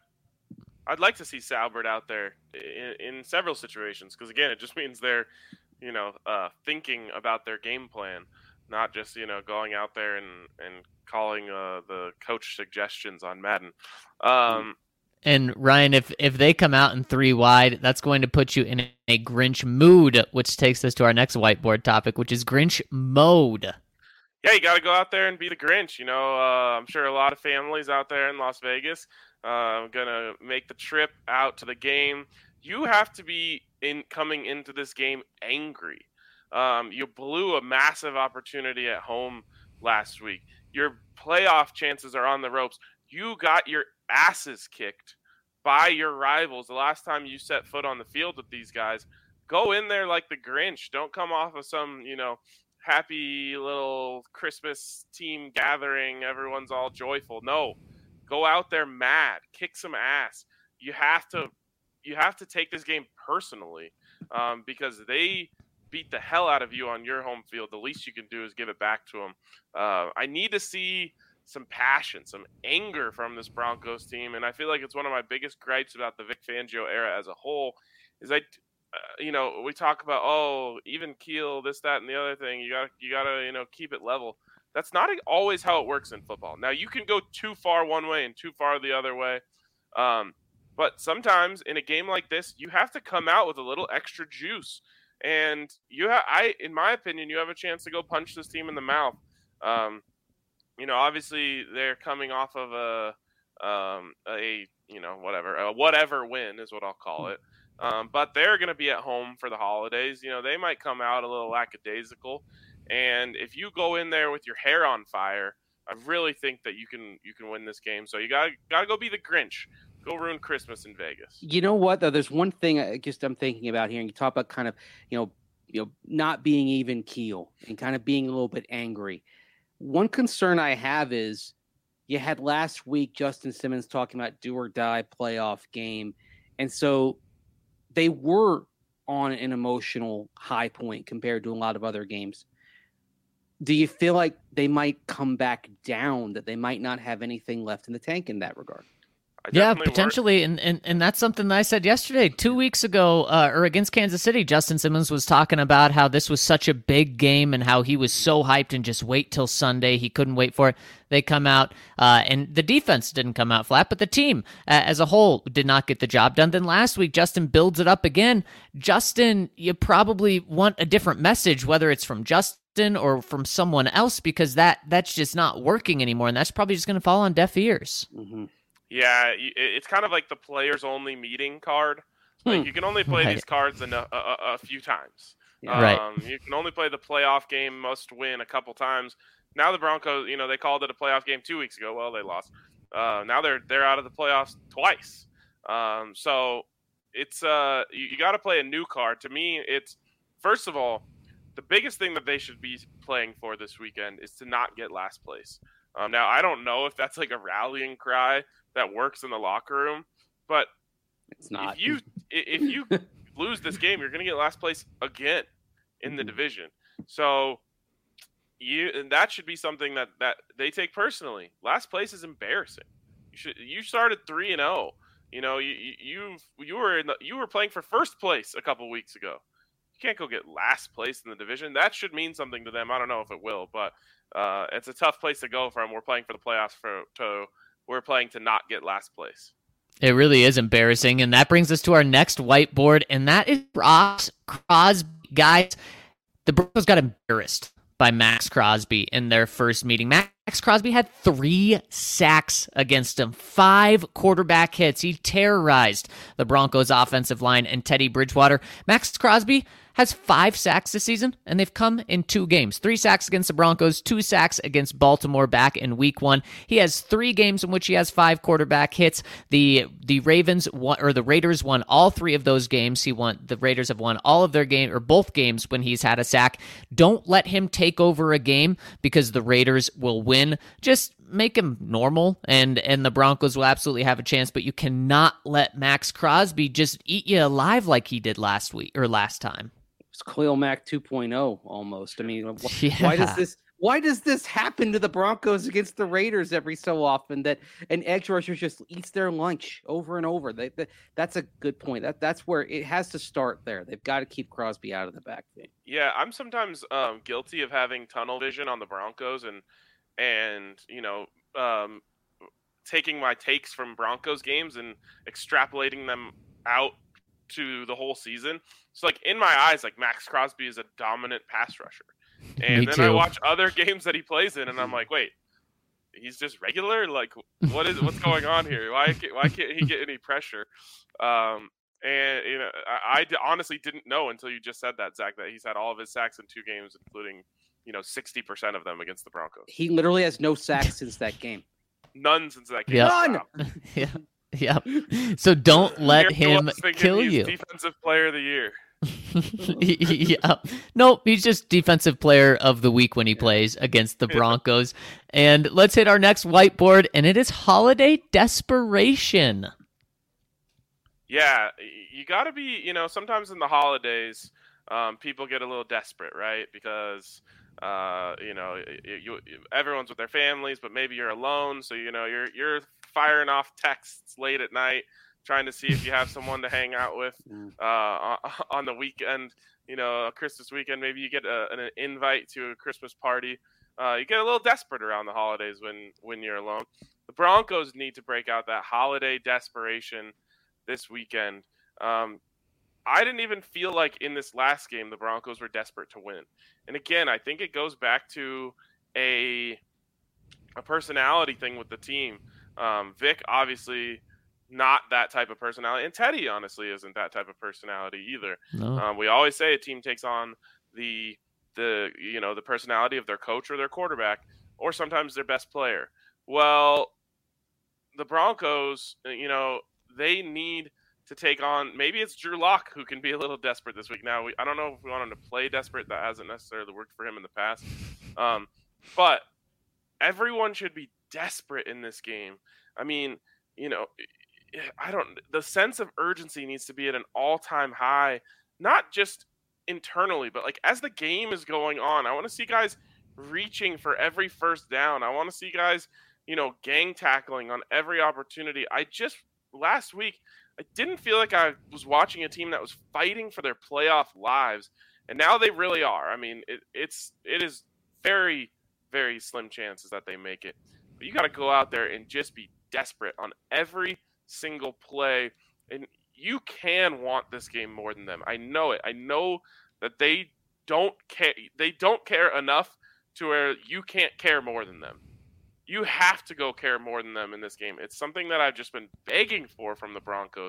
I'd like to see Salbert out there in, in several situations because, again, it just means they're, you know, uh, thinking about their game plan, not just, you know, going out there and, and calling uh, the coach suggestions on Madden. Um, And Ryan, if if they come out in three wide, that's going to put you in a Grinch mood, which takes us to our next whiteboard topic, which is Grinch mode. yeah, you got to go out there and be the Grinch. You know, uh, I'm sure a lot of families out there in Las Vegas uh, going to make the trip out to the game. You have to be in coming into this game angry. Um, you blew a massive opportunity at home last week. Your playoff chances are on the ropes. You got your asses kicked by your rivals the last time you set foot on the field with these guys. Go in there like the Grinch. Don't come off of some, you know, happy little Christmas team gathering. Everyone's all joyful. No, go out there mad, kick some ass. You have to, you have to take this game personally um, because they beat the hell out of you on your home field. The least you can do is give it back to them. Uh, I need to see some passion, some anger from this Broncos team, and I feel like it's one of my biggest gripes about the Vic Fangio era as a whole. Is I, uh, you know, we talk about oh, even keel, this, that, and the other thing. You got, you got to, you know, keep it level. That's not always how it works in football. Now you can go too far one way and too far the other way, um, but sometimes in a game like this, you have to come out with a little extra juice. And you have, I, in my opinion, you have a chance to go punch this team in the mouth. Um, you know, obviously they're coming off of a, um, a, you know, whatever, a whatever win is what I'll call it. Um, but they're going to be at home for the holidays. You know, they might come out a little lackadaisical. And if you go in there with your hair on fire, I really think that you can, you can win this game. So you gotta, gotta go be the Grinch. Go ruin Christmas in Vegas. You know what, though? There's one thing I just I'm thinking about here, and you talk about kind of, you know, you know, not being even keel and kind of being a little bit angry. One concern I have is you had last week Justin Simmons talking about do or die playoff game, and so they were on an emotional high point compared to a lot of other games. Do you feel like they might come back down, that they might not have anything left in the tank in that regard? I Yeah, definitely potentially, and, and and that's something that I said yesterday. Two weeks ago, uh, or against Kansas City, Justin Simmons was talking about how this was such a big game and how he was so hyped and just wait till Sunday. He couldn't wait for it. They come out, uh, and the defense didn't come out flat, but the team uh, as a whole did not get the job done. Then last week, Justin builds it up again. Justin, you probably want a different message, whether it's from Justin or from someone else, because that that's just not working anymore, and that's probably just going to fall on deaf ears. Mm-hmm. Yeah, it's kind of like the players-only meeting card. Like you can only play Right. these cards in a, a, a few times. Yeah. Um, Right. You can only play the playoff game must win a couple times. Now the Broncos, you know, they called it a playoff game two weeks ago. Well, they lost. Uh, now they're they're out of the playoffs twice. Um, so it's uh you, you got to play a new card. To me, it's first of all the biggest thing that they should be playing for this weekend is to not get last place. Um, now I don't know if that's like a rallying cry that works in the locker room, but It's not. if you if you lose this game, you're going to get last place again in the Mhm. division. So you and that should be something that, that they take personally. Last place is embarrassing. You should you started three and zero. You know you you you were in the, you were playing for first place a couple weeks ago. You can't go get last place in the division. That should mean something to them. I don't know if it will, but uh, it's a tough place to go from. We're playing for the playoffs for to we're playing to not get last place. It really is embarrassing. And that brings us to our next whiteboard, and that is Ross Crosby. Guys, the Broncos got embarrassed by Max Crosby in their first meeting. Max Crosby had three sacks against him, five quarterback hits. He terrorized the Broncos' offensive line and Teddy Bridgewater. Max Crosby has five sacks this season, and they've come in two games. Three sacks against the Broncos, two sacks against Baltimore back in week one. He has three games in which he has five quarterback hits. The the Ravens won, or the Raiders won all three of those games. He won. The Raiders have won all of their game or both games when he's had a sack. Don't let him take over a game because the Raiders will win. Just make him normal, and and the Broncos will absolutely have a chance. But you cannot let Max Crosby just eat you alive like he did last week or last time. It's Khalil Mack two point oh almost. I mean, wh- Yeah. why does this why does this happen to the Broncos against the Raiders every so often that an edge rusher just eats their lunch over and over? They, they, that's a good point. That that's where it has to start there. They've got to keep Crosby out of the backfield. Yeah, I'm sometimes um, guilty of having tunnel vision on the Broncos and and you know um, taking my takes from Broncos games and extrapolating them out to the whole season. So like in my eyes, like Max Crosby is a dominant pass rusher, and Me then I too. watch other games that he plays in, and I'm like, wait, he's just regular. Like what is what's going on here? Why can't, why can't he get any pressure? Um, and you know, I, I d- honestly didn't know until you just said that, Zach, that he's had all of his sacks in two games, including you know sixty percent of them against the Broncos. He literally has no sacks since that game. None since that game. Yeah. None! Wow. Yeah. Yeah. So don't let Here's him what's thinking kill he's you. Defensive player of the year. Yeah. Nope, he's just defensive player of the week when he plays against the Broncos. And let's hit our next whiteboard, and it is holiday desperation. Yeah, you got to be, you know, sometimes in the holidays, um, people get a little desperate, right? Because, uh, you know, you, you, everyone's with their families, but maybe you're alone. So, you know, you're you're firing off texts late at night, trying to see if you have someone to hang out with uh, on the weekend, you know, a Christmas weekend. Maybe you get a, an invite to a Christmas party. Uh, you get a little desperate around the holidays when, when you're alone. The Broncos need to break out that holiday desperation this weekend. Um, I didn't even feel like in this last game the Broncos were desperate to win. And again, I think it goes back to a a personality thing with the team. Um, Vic, obviously, not that type of personality. And Teddy, honestly, isn't that type of personality either. No. Um, we always say a team takes on the the you know the personality of their coach or their quarterback, or sometimes their best player. Well, the Broncos, you know, they need to take on, maybe it's Drew Lock who can be a little desperate this week. Now, we, I don't know if we want him to play desperate. That hasn't necessarily worked for him in the past. Um, but everyone should be desperate in this game. I mean, you know, I don't, the sense of urgency needs to be at an all-time high, not just internally, but like as the game is going on. I want to see guys reaching for every first down. I want to see guys, you know, gang tackling on every opportunity. I just, last week, I didn't feel like I was watching a team that was fighting for their playoff lives, and now they really are. I mean, it, it's it is very, very slim chances that they make it. But you got to go out there and just be desperate on every single play, and you can want this game more than them. I know it. I know that they don't care. They don't care enough to where you can't care more than them. You have to go care more than them in this game. It's something that I've just been begging for from the Broncos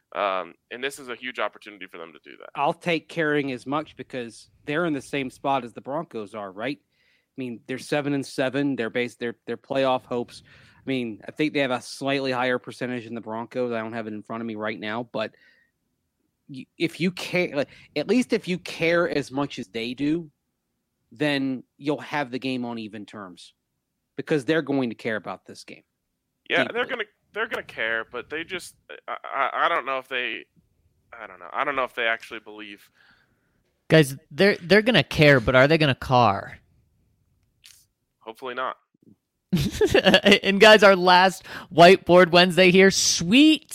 Um, and this is a huge opportunity for them to do that. I'll take carrying as much because they're in the same spot as the Broncos are, right? I mean, they're seven and seven. They're based their their playoff hopes. I mean, I think they have a slightly higher percentage than the Broncos. I don't have it in front of me right now, but you, if you care, like, at least if you care as much as they do, then you'll have the game on even terms because they're going to care about this game. Yeah, deeply. they're gonna they're gonna care, but they just I, I I don't know if they I don't know I don't know if they actually believe. Guys, they're they're gonna care, but are they gonna car? Hopefully not. And guys, our last Whiteboard Wednesday here, Sweet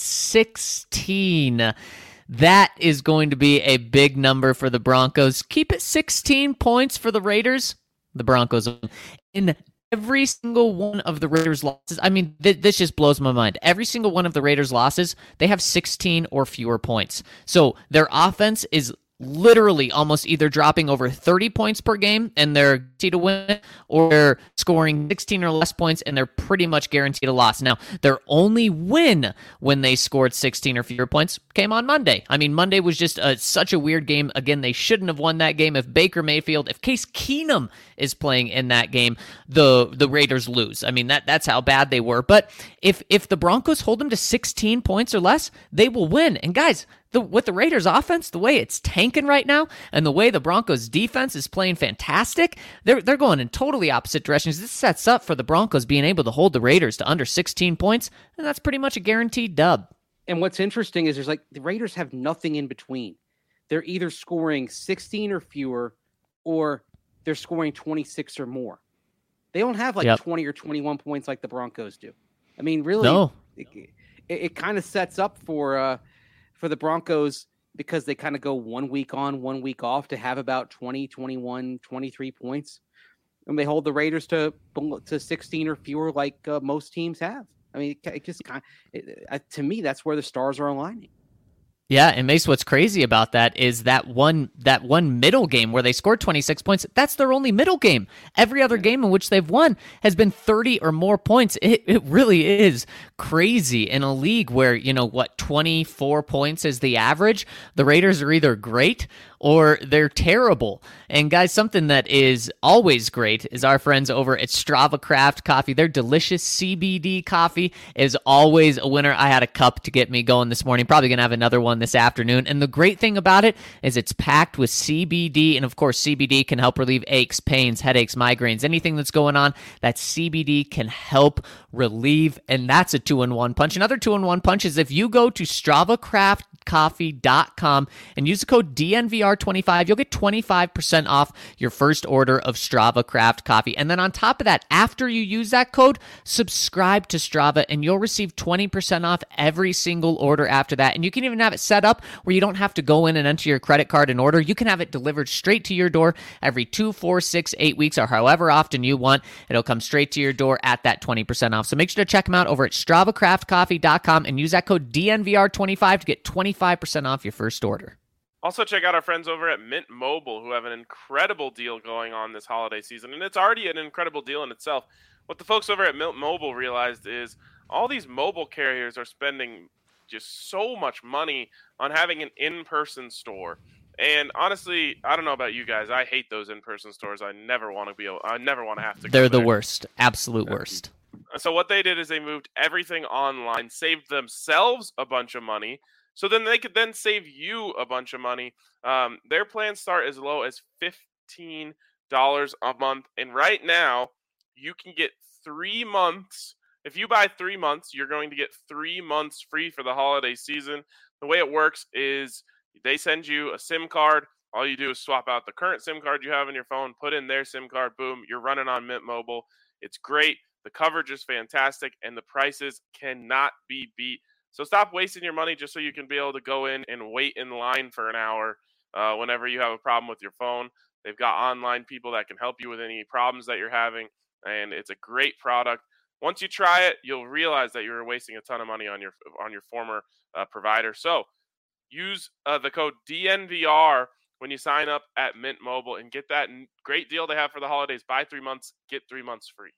sixteen. That is going to be a big number for the Broncos. Keep it sixteen points for the Raiders. The Broncos in every single one of the Raiders' losses. I mean, th- this just blows my mind. Every single one of the Raiders' losses, they have sixteen or fewer points. So their offense is literally almost either dropping over thirty points per game and they're guaranteed to win, or they're scoring sixteen or less points and they're pretty much guaranteed a loss. Now, their only win when they scored sixteen or fewer points came on Monday. I mean, Monday was just a, such a weird game. Again, they shouldn't have won that game. If Baker Mayfield, if Case Keenum is playing in that game, the the Raiders lose. I mean, that that's how bad they were. But if if the Broncos hold them to sixteen points or less, they will win. And guys, The, with the Raiders offense, the way it's tanking right now, and the way the Broncos defense is playing fantastic, they're they're going in totally opposite directions. This sets up for the Broncos being able to hold the Raiders to under sixteen points, and that's pretty much a guaranteed dub. And what's interesting is there's like the Raiders have nothing in between. They're either scoring sixteen or fewer, or they're scoring twenty-six or more. They don't have like Yep. twenty or twenty-one points like the Broncos do. I mean, really, No. it, it, it kind of sets up for uh, for the Broncos because they kind of go one week on, one week off to have about twenty, twenty-one, twenty-three points. And they hold the Raiders to to sixteen or fewer like uh, most teams have. I mean, it, it just kind of, it, uh, to me, that's where the stars are aligning. Yeah, and Mace, what's crazy about that is that one that one middle game where they scored twenty-six points, that's their only middle game. Every other game in which they've won has been thirty or more points. It it really is crazy in a league where, you know, what, twenty-four points is the average. The Raiders are either great or they're terrible. And guys, something that is always great is our friends over at Strava Craft Coffee. Their delicious C B D coffee is always a winner. I had a cup to get me going this morning. Probably going to have another one this afternoon. And the great thing about it is it's packed with C B D. And of course, C B D can help relieve aches, pains, headaches, migraines, anything that's going on. That C B D can help relieve. And that's a two-in-one punch. Another two-in-one punch is if you go to Strava Craft coffee dot com and use the code D N V R twenty-five, you'll get twenty-five percent off your first order of Strava Craft Coffee. And then on top of that, after you use that code, subscribe to Strava and you'll receive twenty percent off every single order after that. And you can even have it set up where you don't have to go in and enter your credit card in order. You can have it delivered straight to your door every two, four, six, eight weeks, or however often you want. It'll come straight to your door at that twenty percent off. So make sure to check them out over at Strava Craft Coffee dot com and use that code D N V R twenty-five to get twenty-five percent off your first order. Also, check out our friends over at Mint Mobile, who have an incredible deal going on this holiday season. And it's already an incredible deal in itself. What the folks over at Mint Mobile realized is all these mobile carriers are spending just so much money on having an in-person store. And honestly, I don't know about you guys. I hate those in-person stores. I never want to be. I never want to have to go They're the there. worst. Absolute worst. So what they did is they moved everything online, saved themselves a bunch of money, so then they could then save you a bunch of money. Um, their plans start as low as fifteen dollars a month. And right now, you can get three months. If you buy three months, you're going to get three months free for the holiday season. The way it works is they send you a SIM card. All you do is swap out the current SIM card you have on your phone, put in their SIM card, boom, you're running on Mint Mobile. It's great. The coverage is fantastic, and the prices cannot be beat. So stop wasting your money just so you can be able to go in and wait in line for an hour uh, whenever you have a problem with your phone. They've got online people that can help you with any problems that you're having, and it's a great product. Once you try it, you'll realize that you're wasting a ton of money on your on your former uh, provider. So use uh, the code D N V R when you sign up at Mint Mobile and get that great deal they have for the holidays. Buy three months, get three months free.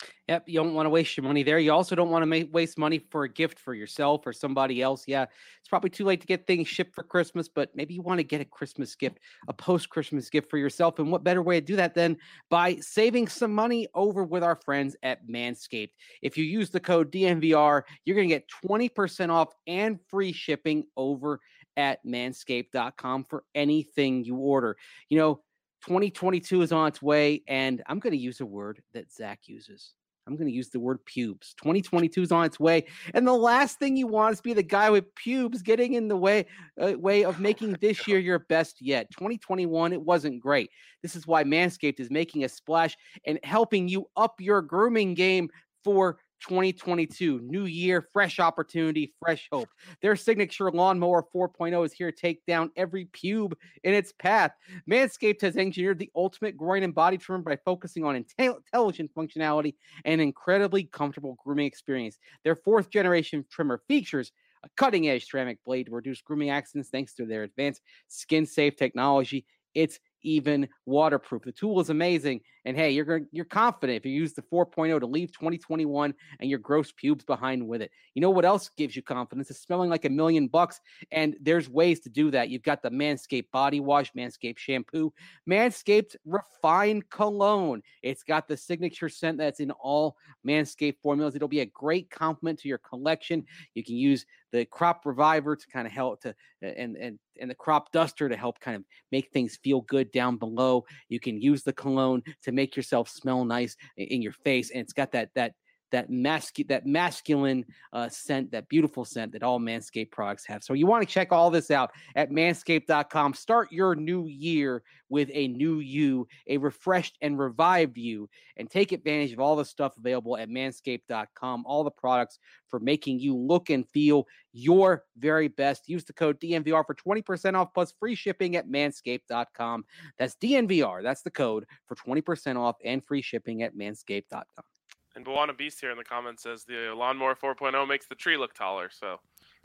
Yep, you don't want to waste your money there. You also don't want to make, waste money for a gift for yourself or somebody else. Yeah, it's probably too late to get things shipped for Christmas, but maybe you want to get a Christmas gift, a post-Christmas gift for yourself. And what better way to do that than by saving some money over with our friends at Manscaped? If you use the code D N V R, you're going to get twenty percent off and free shipping over at manscaped dot com for anything you order. You know, twenty twenty-two is on its way, and I'm going to use a word that Zach uses. I'm going to use the word pubes. twenty twenty-two is on its way, and the last thing you want is to be the guy with pubes getting in the way uh, way of making this year your best yet. twenty twenty-one, it wasn't great. This is why Manscaped is making a splash and helping you up your grooming game for twenty twenty-two. New year, fresh opportunity, fresh hope. Their signature lawnmower four point oh is here to take down every pube in its path. Manscaped has engineered the ultimate groin and body trimmer by focusing on intel- intelligent functionality and incredibly comfortable grooming experience. Their fourth generation trimmer features a cutting-edge ceramic blade to reduce grooming accidents thanks to their advanced skin-safe technology. It's even waterproof. The tool is amazing. And hey, you're going you're confident if you use the four point oh to leave twenty twenty-one and your gross pubes behind with it. You know what else gives you confidence? It's smelling like a million bucks. And there's ways to do that. You've got the Manscaped body wash, Manscaped shampoo, Manscaped refined cologne. It's got the signature scent that's in all Manscaped formulas. It'll be a great complement to your collection. You can use the crop reviver to kind of help to and and and the crop duster to help kind of make things feel good down below. You can use the cologne to make yourself smell nice in your face, and it's got that that that mascu- that masculine uh, scent, that beautiful scent that all Manscaped products have. So you want to check all this out at manscaped dot com. Start your new year with a new you, a refreshed and revived you, and take advantage of all the stuff available at manscaped dot com. All the products for making you look and feel your very best. Use the code D N V R for twenty percent off plus free shipping at manscaped dot com. That's D N V R. That's the code for twenty percent off and free shipping at manscaped dot com. And Bawana Beast here in the comments says the lawnmower four point oh makes the tree look taller. So,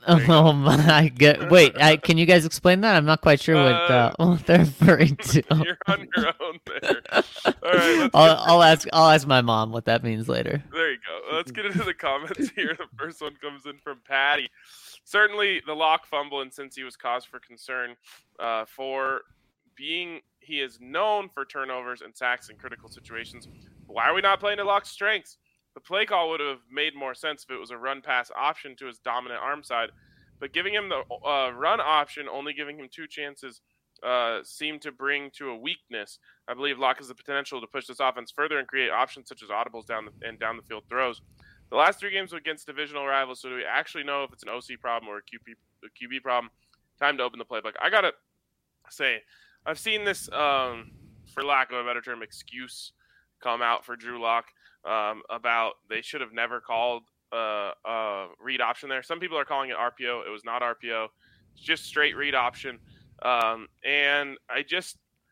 oh my god! Wait, I, can you guys explain that? I'm not quite sure what, uh, Uh, what they're referring to. you're on your own there. All right, let's I'll, get- I'll ask. I'll ask my mom what that means later. There you go. Let's get into the comments here. The first one comes in from Patty. Certainly, the lock fumble and Cincy was cause for concern uh, for being he is known for turnovers and sacks in critical situations. Why are we not playing to Lock's strengths? The play call would have made more sense if it was a run pass option to his dominant arm side, but giving him the uh, run option, only giving him two chances, uh, seemed to bring to a weakness. I believe Locke has the potential to push this offense further and create options such as audibles down the, and down the field throws. The last three games were against divisional rivals, so do we actually know if it's an O C problem or a Q B, a Q B problem? Time to open the playbook. I gotta say, I've seen this, um, for lack of a better term, excuse come out for Drew Lock um, about they should have never called uh, a read option there. Some people are calling it R P O. It was not R P O. It's just straight read option. Um, and I just,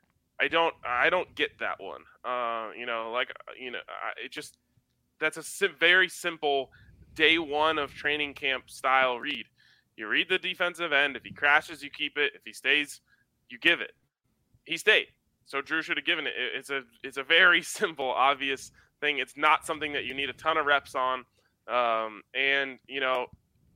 I don't, I don't get that one. Uh, you know, like, you know, I, it just, that's a sim- very simple day one of training camp style read. You read the defensive end. If he crashes, you keep it. If he stays, you give it. He stayed. So Drew should have given it. It's a it's a very simple, obvious thing. It's not something that you need a ton of reps on. Um, and, you know,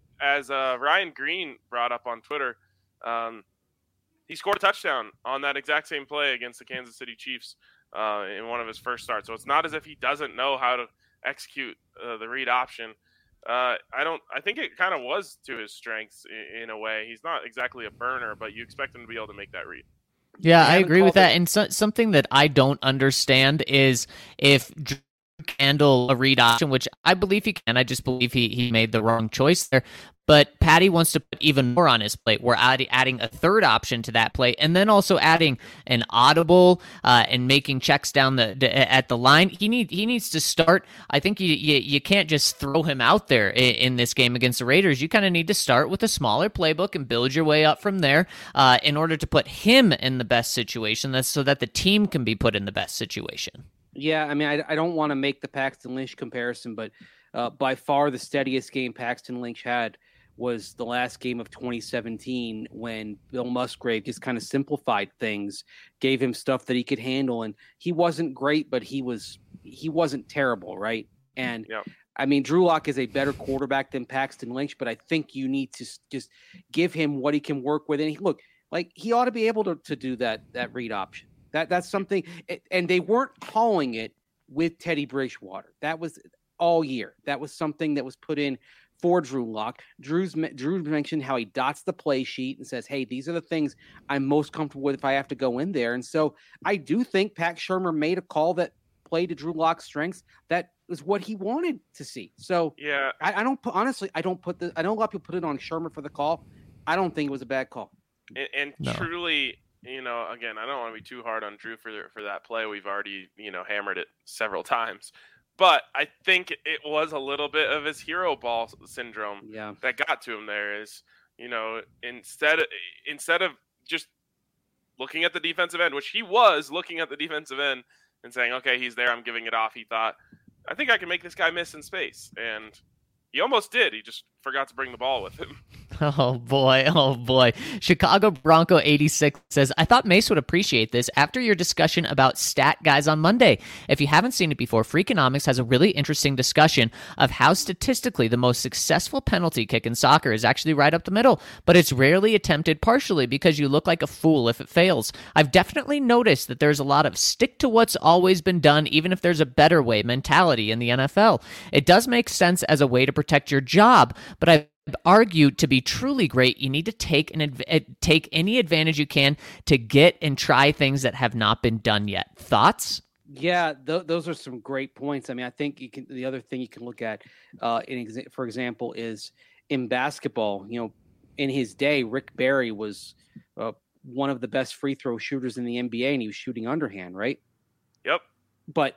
as uh, Ryan Green brought up on Twitter, um, he scored a touchdown on that exact same play against the Kansas City Chiefs uh, in one of his first starts. So it's not as if he doesn't know how to execute uh, the read option. Uh, I don't. I think it kind of was to his strengths in, in a way. He's not exactly a burner, but you expect him to be able to make that read. Yeah, I haven't agree with called that. it- And so, something that I don't understand is if Drew can handle a read option, which I believe he can. I just believe he he made the wrong choice there. But Patty wants to put even more on his plate. We're add, adding a third option to that play, and then also adding an audible uh, and making checks down the, the at the line. He need he needs to start. I think you you, you can't just throw him out there in, in this game against the Raiders. You kind of need to start with a smaller playbook and build your way up from there uh, in order to put him in the best situation. That's so that the team can be put in the best situation. Yeah, I mean, I, I don't want to make the Paxton Lynch comparison, but uh, by far the steadiest game Paxton Lynch had was the last game of twenty seventeen when Bill Musgrave just kind of simplified things, gave him stuff that he could handle, and he wasn't great, but he was he wasn't terrible, right? And Yep. I mean, Drew Lock is a better quarterback than Paxton Lynch, but I think you need to just give him what he can work with. And he, look, like he ought to be able to, to do that, that read option. That that's something. And they weren't calling it with Teddy Bridgewater. That was all year. That was something that was put in for Drew Lock. Drew's Drew mentioned how he dots the play sheet and says, hey, these are the things I'm most comfortable with if I have to go in there. And so I do think Pat Shurmur made a call that played to Drew Lock's strengths. That was what he wanted to see. So yeah, I, I don't put, honestly, I don't put the, I know a lot of people put it on Shurmur for the call. I don't think it was a bad call. And, and No. truly, you know, again, I don't want to be too hard on Drew for for that play. We've already, you know, hammered it several times. But I think it was a little bit of his hero ball syndrome Yeah. that got to him there. Is, you know, instead of, instead of just looking at the defensive end, which he was looking at the defensive end and saying, okay, he's there, I'm giving it off. He thought, I think I can make this guy miss in space. And he almost did. He just forgot to bring the ball with him. Oh boy, oh boy. Chicago Bronco eighty-six says, I thought Mace would appreciate this after your discussion about stat guys on Monday. If you haven't seen it before, Freakonomics has a really interesting discussion of how statistically the most successful penalty kick in soccer is actually right up the middle, but it's rarely attempted partially because you look like a fool if it fails. I've definitely noticed that there's a lot of stick to what's always been done, even if there's a better way mentality in the N F L. It does make sense as a way to protect your job, but I've argued to be truly great, you need to take an adv- take any advantage you can to get and try things that have not been done yet. Thoughts? Yeah, th- those are some great points. I mean, I think you can. The other thing you can look at, uh, in exa- for example, is in basketball. You know, in his day, Rick Barry was uh, one of the best free throw shooters in the N B A, and he was shooting underhand, right? Yep. But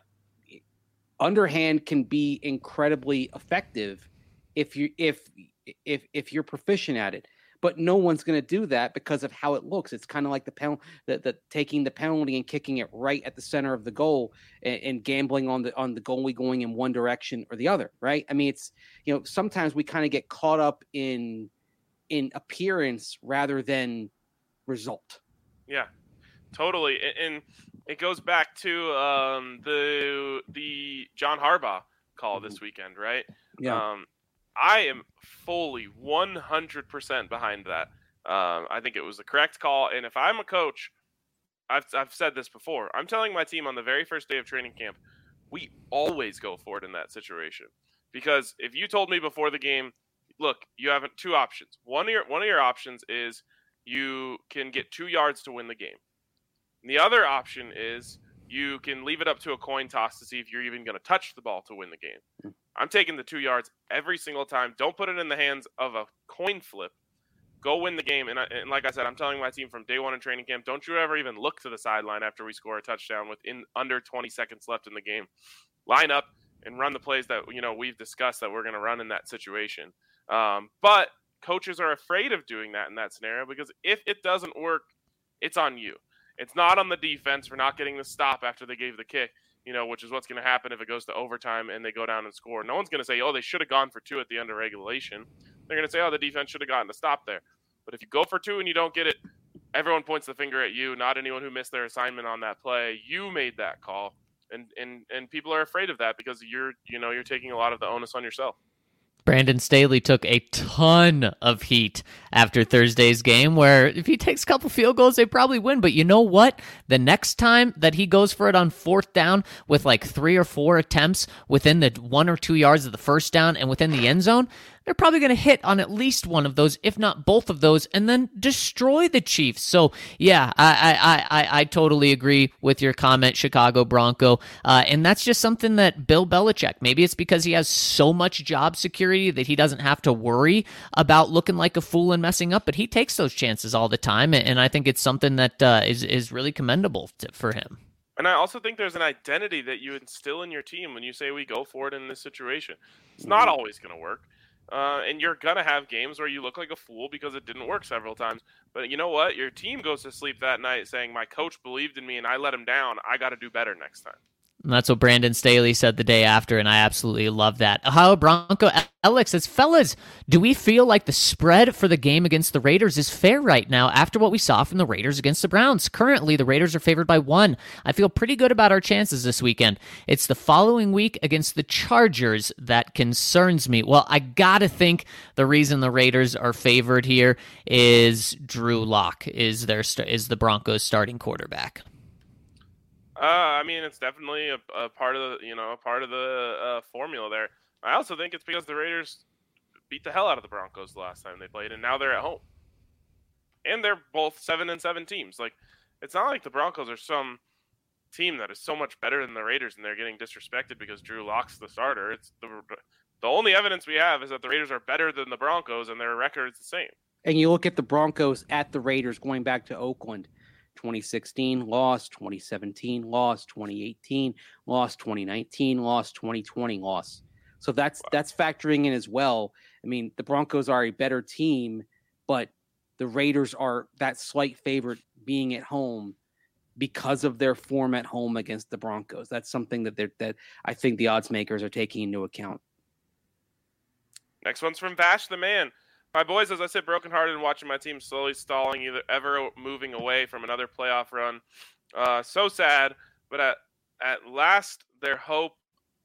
underhand can be incredibly effective if you if if if you're proficient at it. But no one's going to do that because of how it looks. It's kind of like the pen, the, the taking the penalty and kicking it right at the center of the goal and, and gambling on the on the goalie going in one direction or the other, right? I mean, it's, you know, sometimes we kind of get caught up in in appearance rather than result. Yeah, totally. And it goes back to um, the the John Harbaugh call this weekend, right? Yeah. Um, I am fully one hundred percent behind that. Um, I think it was the correct call. And if I'm a coach, I've, I've said this before, I'm telling my team on the very first day of training camp, we always go for it in that situation. Because if you told me before the game, look, you have two options. One of your, one of your options is you can get two yards to win the game. And the other option is you can leave it up to a coin toss to see if you're even going to touch the ball to win the game. I'm taking the two yards every single time. Don't put it in the hands of a coin flip. Go win the game. And, I, and like I said, I'm telling my team from day one in training camp, don't you ever even look to the sideline after we score a touchdown with in under twenty seconds left in the game. Line up and run the plays that, you know, we've discussed that we're going to run in that situation. Um, but coaches are afraid of doing that in that scenario because if it doesn't work, it's on you. It's not on the defense for not getting the stop after they gave the kick. You know, which is what's going to happen if it goes to overtime and they go down and score. No one's going to say, oh, they should have gone for two at the end of regulation. They're going to say, oh, the defense should have gotten a stop there. But if you go for two and you don't get it, everyone points the finger at you, not anyone who missed their assignment on that play. You made that call. And and and people are afraid of that because you're, you know, you're taking a lot of the onus on yourself. Brandon Staley took a ton of heat after Thursday's game where if he takes a couple field goals, they probably win. But you know what? The next time that he goes for it on fourth down with like three or four attempts within the one or two yards of the first down and within the end zone, they're probably going to hit on at least one of those, if not both of those, and then destroy the Chiefs. So, yeah, I I, I, I totally agree with your comment, Chicago Bronco. Uh, and that's just something that Bill Belichick, maybe it's because he has so much job security that he doesn't have to worry about looking like a fool and messing up, but he takes those chances all the time, and I think it's something that uh, is, is really commendable to, for him. And I also think there's an identity that you instill in your team when you say we go for it in this situation. It's not always going to work. Uh, and you're going to have games where you look like a fool because it didn't work several times. But you know what? Your team goes to sleep that night saying, my coach believed in me and I let him down. I got to do better next time. And that's what Brandon Staley said the day after, and I absolutely love that. Ohio Bronco Alex says, fellas, do we feel like the spread for the game against the Raiders is fair right now after what we saw from the Raiders against the Browns? Currently, the Raiders are favored by one. I feel pretty good about our chances this weekend. It's the following week against the Chargers that concerns me. Well, I gotta think the reason the Raiders are favored here is Drew Lock is their is the Broncos' starting quarterback. Uh, I mean, it's definitely a, a part of the, you know, a part of the uh, formula there. I also think it's because the Raiders beat the hell out of the Broncos the last time they played, and now they're at home. And they're both seven and seven teams. Like, it's not like the Broncos are some team that is so much better than the Raiders, and they're getting disrespected because Drew Lock's the starter. It's the the only evidence we have is that the Raiders are better than the Broncos, and their record is the same. And you look at the Broncos at the Raiders going back to Oakland. twenty sixteen loss, twenty seventeen loss, twenty eighteen loss, twenty nineteen loss, twenty twenty loss. So that's wow. that's factoring in as well. I mean, the Broncos are a better team, but the Raiders are that slight favorite being at home because of their form at home against the Broncos. That's something that they're that I think the odds makers are taking into account. Next one's from Vash the Man. My boys, as I said, brokenhearted and watching my team slowly stalling, either ever moving away from another playoff run. Uh, so sad, but at at last, their hope,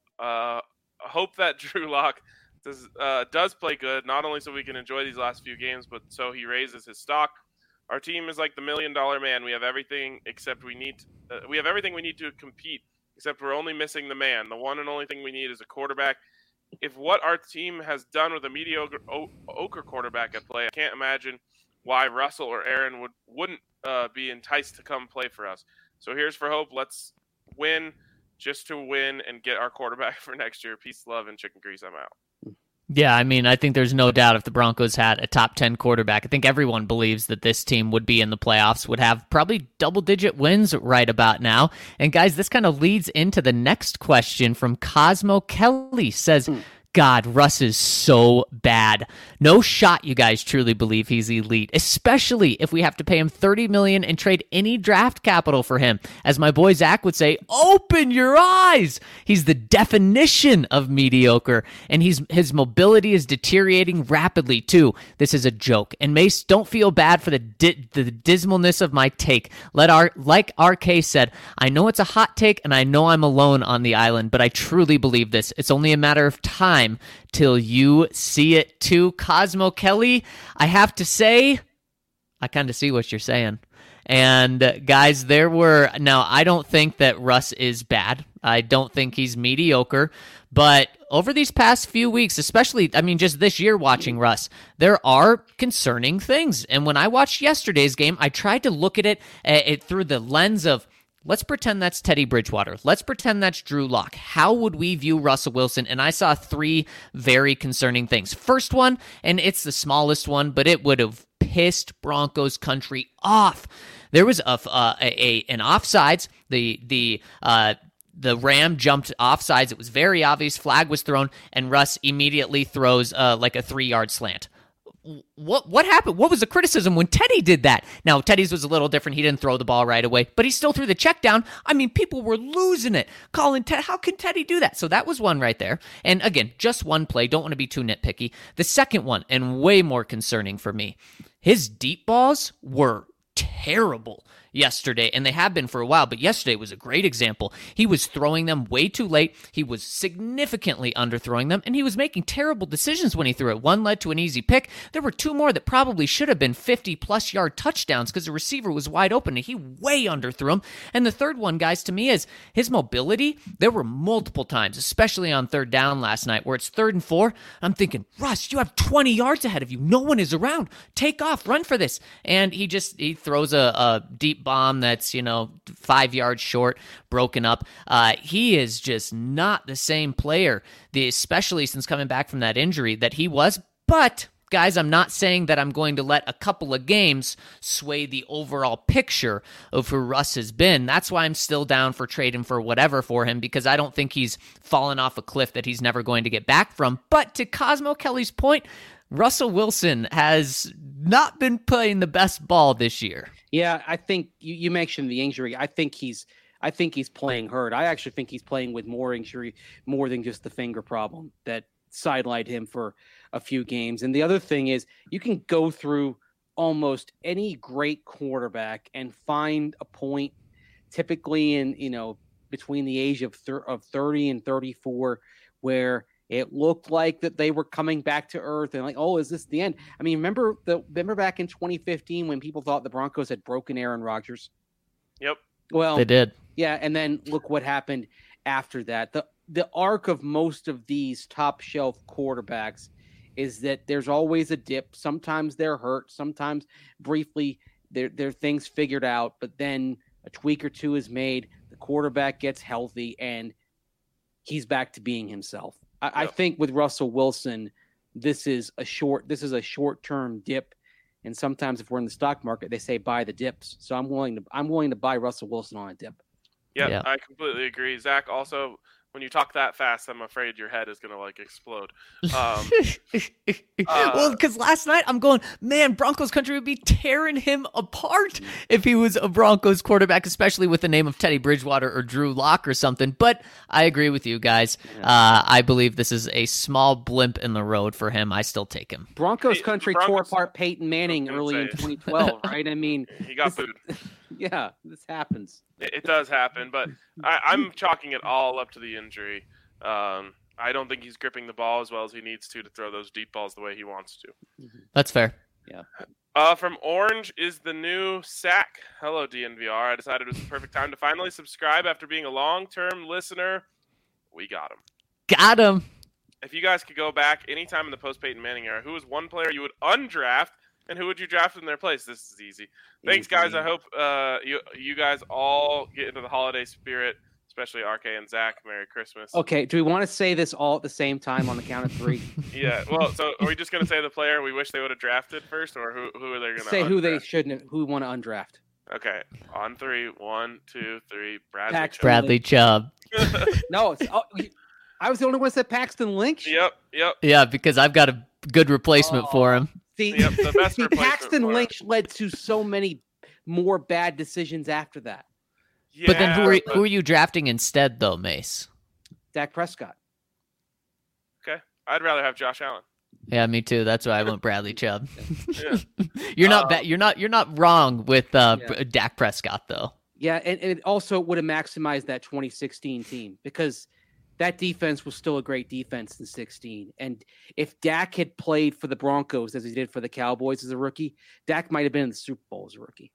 uh, hope that Drew Lock does uh, does play good, not only so we can enjoy these last few games, but so he raises his stock. Our team is like the million dollar man. We have everything except we need. Uh, we have everything we need to compete, except we're only missing the man. The one and only thing we need is a quarterback. If what our team has done with a mediocre ochre quarterback at play, I can't imagine why Russell or Aaron would, wouldn't uh, be enticed to come play for us. So here's for hope. Let's win just to win and get our quarterback for next year. Peace, love, and chicken grease. I'm out. Yeah, I mean, I think there's no doubt if the Broncos had a top ten quarterback, I think everyone believes that this team would be in the playoffs, would have probably double-digit wins right about now. And guys, this kind of leads into the next question from Cosmo Kelly. Says, mm. God, Russ is so bad. No shot you guys truly believe he's elite, especially if we have to pay him thirty million dollars and trade any draft capital for him. As my boy Zach would say, open your eyes. He's the definition of mediocre, and he's his mobility is deteriorating rapidly too. This is a joke. And Mace, don't feel bad for the di- the dismalness of my take. Let our like R K said, I know it's a hot take, and I know I'm alone on the island, but I truly believe this. It's only a matter of time till you see it too. Cosmo Kelly, I have to say, I kind of see what you're saying. And uh, guys, there were, now I don't think that Russ is bad. I don't think he's mediocre, but over these past few weeks, especially, I mean, just this year watching Russ, there are concerning things. And when I watched yesterday's game, I tried to look at it, uh, it through the lens of, let's pretend that's Teddy Bridgewater. Let's pretend that's Drew Lock. How would we view Russell Wilson? And I saw three very concerning things. First one, and it's the smallest one, but it would have pissed Broncos country off. There was a, uh, a, a an offsides. The the uh, the Ram jumped offsides. It was very obvious. Flag was thrown, and Russ immediately throws uh, like a three-yard slant. What what happened? What was the criticism when Teddy did that? Now, Teddy's was a little different. He didn't throw the ball right away, but he still threw the check down. I mean, people were losing it. Calling Ted, how can Teddy do that? So that was one right there. And again, just one play. Don't want to be too nitpicky. The second one, and way more concerning for me, his deep balls were terrible yesterday, and they have been for a while, but yesterday was a great example. He was throwing them way too late. He was significantly underthrowing them, and he was making terrible decisions when he threw it. One led to an easy pick. There were two more that probably should have been fifty-plus yard touchdowns because the receiver was wide open, and he way underthrew him. And the third one, guys, to me is his mobility. There were multiple times, especially on third down last night, where it's third and four. I'm thinking, Russ, you have twenty yards ahead of you. No one is around. Take off. Run for this. And he just he throws a, a deep bomb that's, you know, five yards short, broken up. Uh, he is just not the same player, the, especially since coming back from that injury that he was. But, guys, I'm not saying that I'm going to let a couple of games sway the overall picture of who Russ has been. That's why I'm still down for trading for whatever for him, because I don't think he's fallen off a cliff that he's never going to get back from. But to Cosmo Kelly's point, Russell Wilson has not been playing the best ball this year. Yeah, I think you, you mentioned the injury. I think he's I think he's playing hurt. I actually think he's playing with more injury, more than just the finger problem that sidelined him for a few games. And the other thing is, you can go through almost any great quarterback and find a point, typically in, you know, between the age of thir- of thirty and thirty-four, where it looked like that they were coming back to earth and like, oh, is this the end? I mean, remember the remember back in twenty fifteen when people thought the Broncos had broken Aaron Rodgers? Yep. Well, They did. yeah, and then look what happened after that. The the arc of most of these top shelf quarterbacks is that there's always a dip. Sometimes they're hurt, sometimes briefly their their things figured out, but then a tweak or two is made, the quarterback gets healthy, and he's back to being himself. I, Yep. I think with Russell Wilson, this is a short this is a short-term dip. And sometimes if we're in the stock market, they say buy the dips. So I'm willing to I'm willing to buy Russell Wilson on a dip. Yep, Yeah. I completely agree. Zach, also, when you talk that fast, I'm afraid your head is going to, like, explode. Um, well, because last night I'm going, man, Broncos country would be tearing him apart if he was a Broncos quarterback, especially with the name of Teddy Bridgewater or Drew Lock or something. But I agree with you guys. Uh, I believe this is a small blimp in the road for him. I still take him. Broncos Hey, country Broncos- tore apart Peyton Manning I was early gonna in say. twenty twelve, right? I mean, he got this- booed. yeah, this happens. It, it does happen, but I, I'm chalking it all up to the injury. Um, I don't think he's gripping the ball as well as he needs to to throw those deep balls the way he wants to. That's fair. Uh, from Orange is the new sack. Hello, D N V R. I decided it was the perfect time to finally subscribe after being a long-term listener. We got him. Got him. If you guys could go back anytime in the post-Peyton Manning era, who was one player you would undraft, and who would you draft in their place? This is easy. Thanks, guys. I hope uh, you you guys all get into the holiday spirit, especially R K and Zach. Merry Christmas. Okay, do we want to say this all at the same time on the count of three? Yeah. Well, so are we just gonna say the player we wish they would have drafted first, or who who are they gonna Say who they undraft? shouldn't have, who want to undraft. Okay, on three. One, two, three. Bradley. Paxton. Chubb. Bradley Chubb. No, it's, oh, you- I was the only one that said Paxton Lynch. Yep. Yep. Yeah, because I've got a good replacement for him. See, Yep, the best see replacement Paxton for him. Lynch led to so many more bad decisions after that. Yeah, But then who are, but- who are you drafting instead, though, Mace? Dak Prescott. Okay. I'd rather have Josh Allen. Yeah, me too. That's why I went Bradley Chubb. Yeah. you're not Um, ba- you're not you're not wrong with uh, Yeah. Br- Dak Prescott though. Yeah, and, and it also would have maximized that twenty sixteen team because that defense was still a great defense in sixteen. And if Dak had played for the Broncos as he did for the Cowboys as a rookie, Dak might have been in the Super Bowl as a rookie.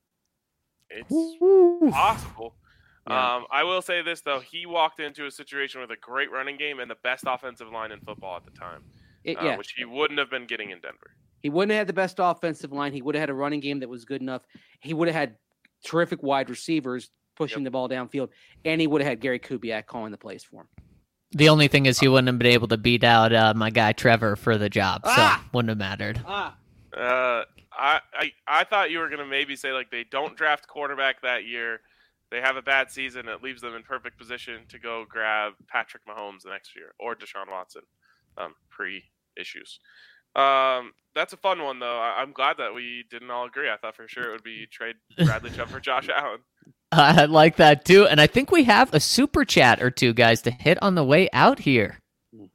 It's possible. Yeah. Um, I will say this though: he walked into a situation with a great running game and the best offensive line in football at the time, It- uh, yeah, which he wouldn't have been getting in Denver. he wouldn't have had the best offensive line. He would have had a running game that was good enough. He would have had terrific wide receivers pushing Yep. the ball downfield, and he would have had Gary Kubiak calling the plays for him. The only thing is he wouldn't have been able to beat out uh, my guy Trevor for the job, so Ah! wouldn't have mattered. Ah, Uh, I, I I thought you were gonna maybe say like they don't draft quarterback that year, they have a bad season, it leaves them in perfect position to go grab Patrick Mahomes the next year or Deshaun Watson, um, pre issues. Um, that's a fun one though. I, I'm glad that we didn't all agree. I thought for sure it would be trade Bradley Chubb for Josh Allen. I like that too, and I think we have a super chat or two, guys, to hit on the way out here. What's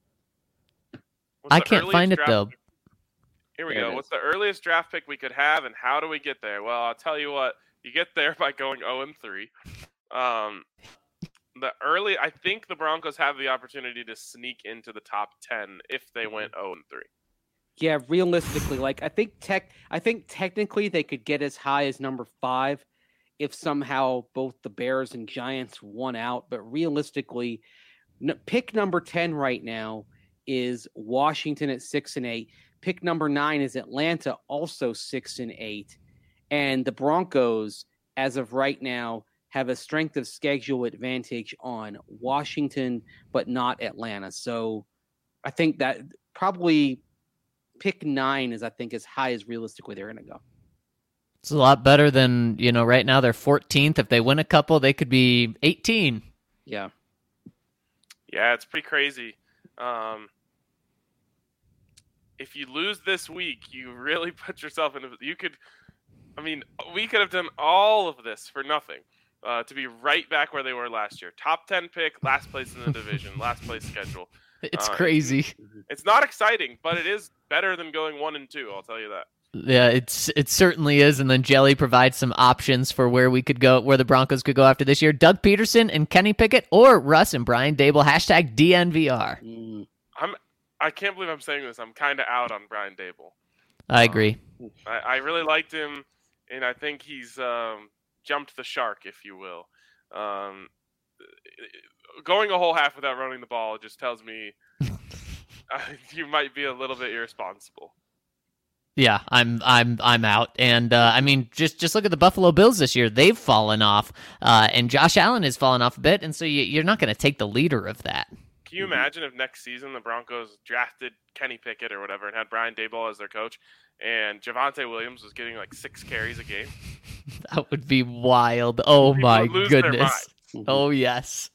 I the can't earliest find it draft though. pick- Here we There go. it What's the earliest draft pick we could have, and how do we get there? Well, I'll tell you what. You get there by going zero and three. Um, the early, I think the Broncos have the opportunity to sneak into the top ten if they went zero and three. yeah. Realistically, like I think tech, I think technically they could get as high as number five if somehow both the Bears and Giants won out. But realistically, n- pick number ten right now is Washington at six and eight. Pick number nine is Atlanta, also six and eight. And the Broncos, as of right now, have a strength of schedule advantage on Washington, but not Atlanta. So I think that probably pick nine is, I think, as high as realistically they're going to go. It's a lot better than, you know, right now they're fourteenth. If they win a couple, they could be eighteen. Yeah. Yeah, it's pretty crazy. Um, if you lose this week, you really put yourself in. A, you could, I mean, we could have done all of this for nothing. uh, to be right back where they were last year. Top ten pick, last place in the division, last place schedule. It's Uh, crazy. It's, it's not exciting, but it is better than going one and two. I'll tell you that. Yeah, it's it certainly is. And then Jelly provides some options for where we could go, where the Broncos could go after this year. Doug Peterson and Kenny Pickett, or Russ and Brian Dable. Hashtag D N V R. Mm. I'm. I can't believe I'm saying this. I'm kind of out on Brian Dable. I agree. Um, I, I really liked him, and I think he's um, jumped the shark, if you will. Um, going a whole half without running the ball just tells me uh, you might be a little bit irresponsible. Yeah, I'm I'm I'm out. And uh, I mean, just just look at the Buffalo Bills this year. They've fallen off, uh, and Josh Allen has fallen off a bit. And so you, you're not going to take the leader of that. Can you imagine if next season the Broncos drafted Kenny Pickett or whatever and had Brian Daboll as their coach, and Javonte Williams was getting like six carries a game? That would be wild. Oh People my would lose their goodness. Oh yes.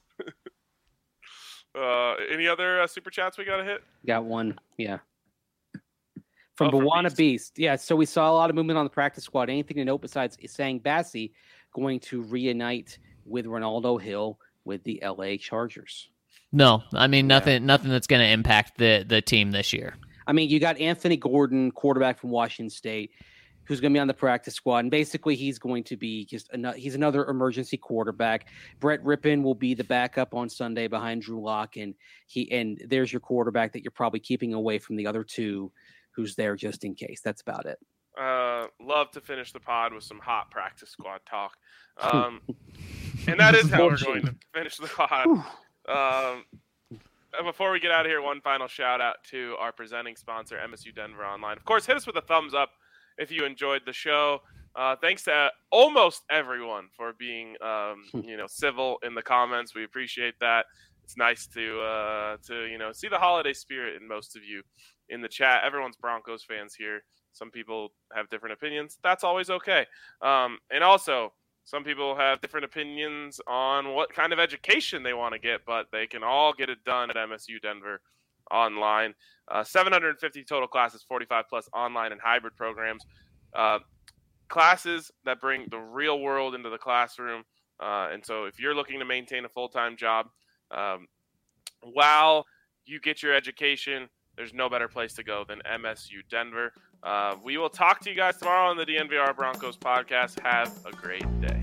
Uh, any other uh, super chats we got to hit? Got one, yeah. From Oh, from Bawana Beast. Beast. Yeah, so we saw a lot of movement on the practice squad. Anything to note besides Sang Bassi going to reunite with Ronaldo Hill with the L A Chargers? No, I mean Yeah. nothing. Nothing that's going to impact the the team this year. I mean, you got Anthony Gordon, quarterback from Washington State, who's going to be on the practice squad. And basically, he's going to be just another, he's another emergency quarterback. Brett Rippon will be the backup on Sunday behind Drew Lock. And he and there's your quarterback that you're probably keeping away from the other two who's there just in case. That's about it. Uh, love to finish the pod with some hot practice squad talk. Um, and that is how we're going to finish the pod. Um, and before we get out of here, one final shout out to our presenting sponsor, M S U Denver Online. Of course, hit us with a thumbs up if you enjoyed the show. Uh, thanks to almost everyone for being, um, you know, civil in the comments. We appreciate that. It's nice to, uh, to you know, see the holiday spirit in most of you in the chat. Everyone's Broncos fans here. Some people have different opinions. That's always okay. Um, and also, some people have different opinions on what kind of education they want to get, but they can all get it done at M S U Denver Online. Uh, seven hundred fifty total classes, forty-five plus online and hybrid programs. Uh, classes that bring the real world into the classroom. Uh, and so if you're looking to maintain a full-time job um, while you get your education, there's no better place to go than M S U Denver. Uh, we will talk to you guys tomorrow on the D N V R Broncos podcast. Have a great day.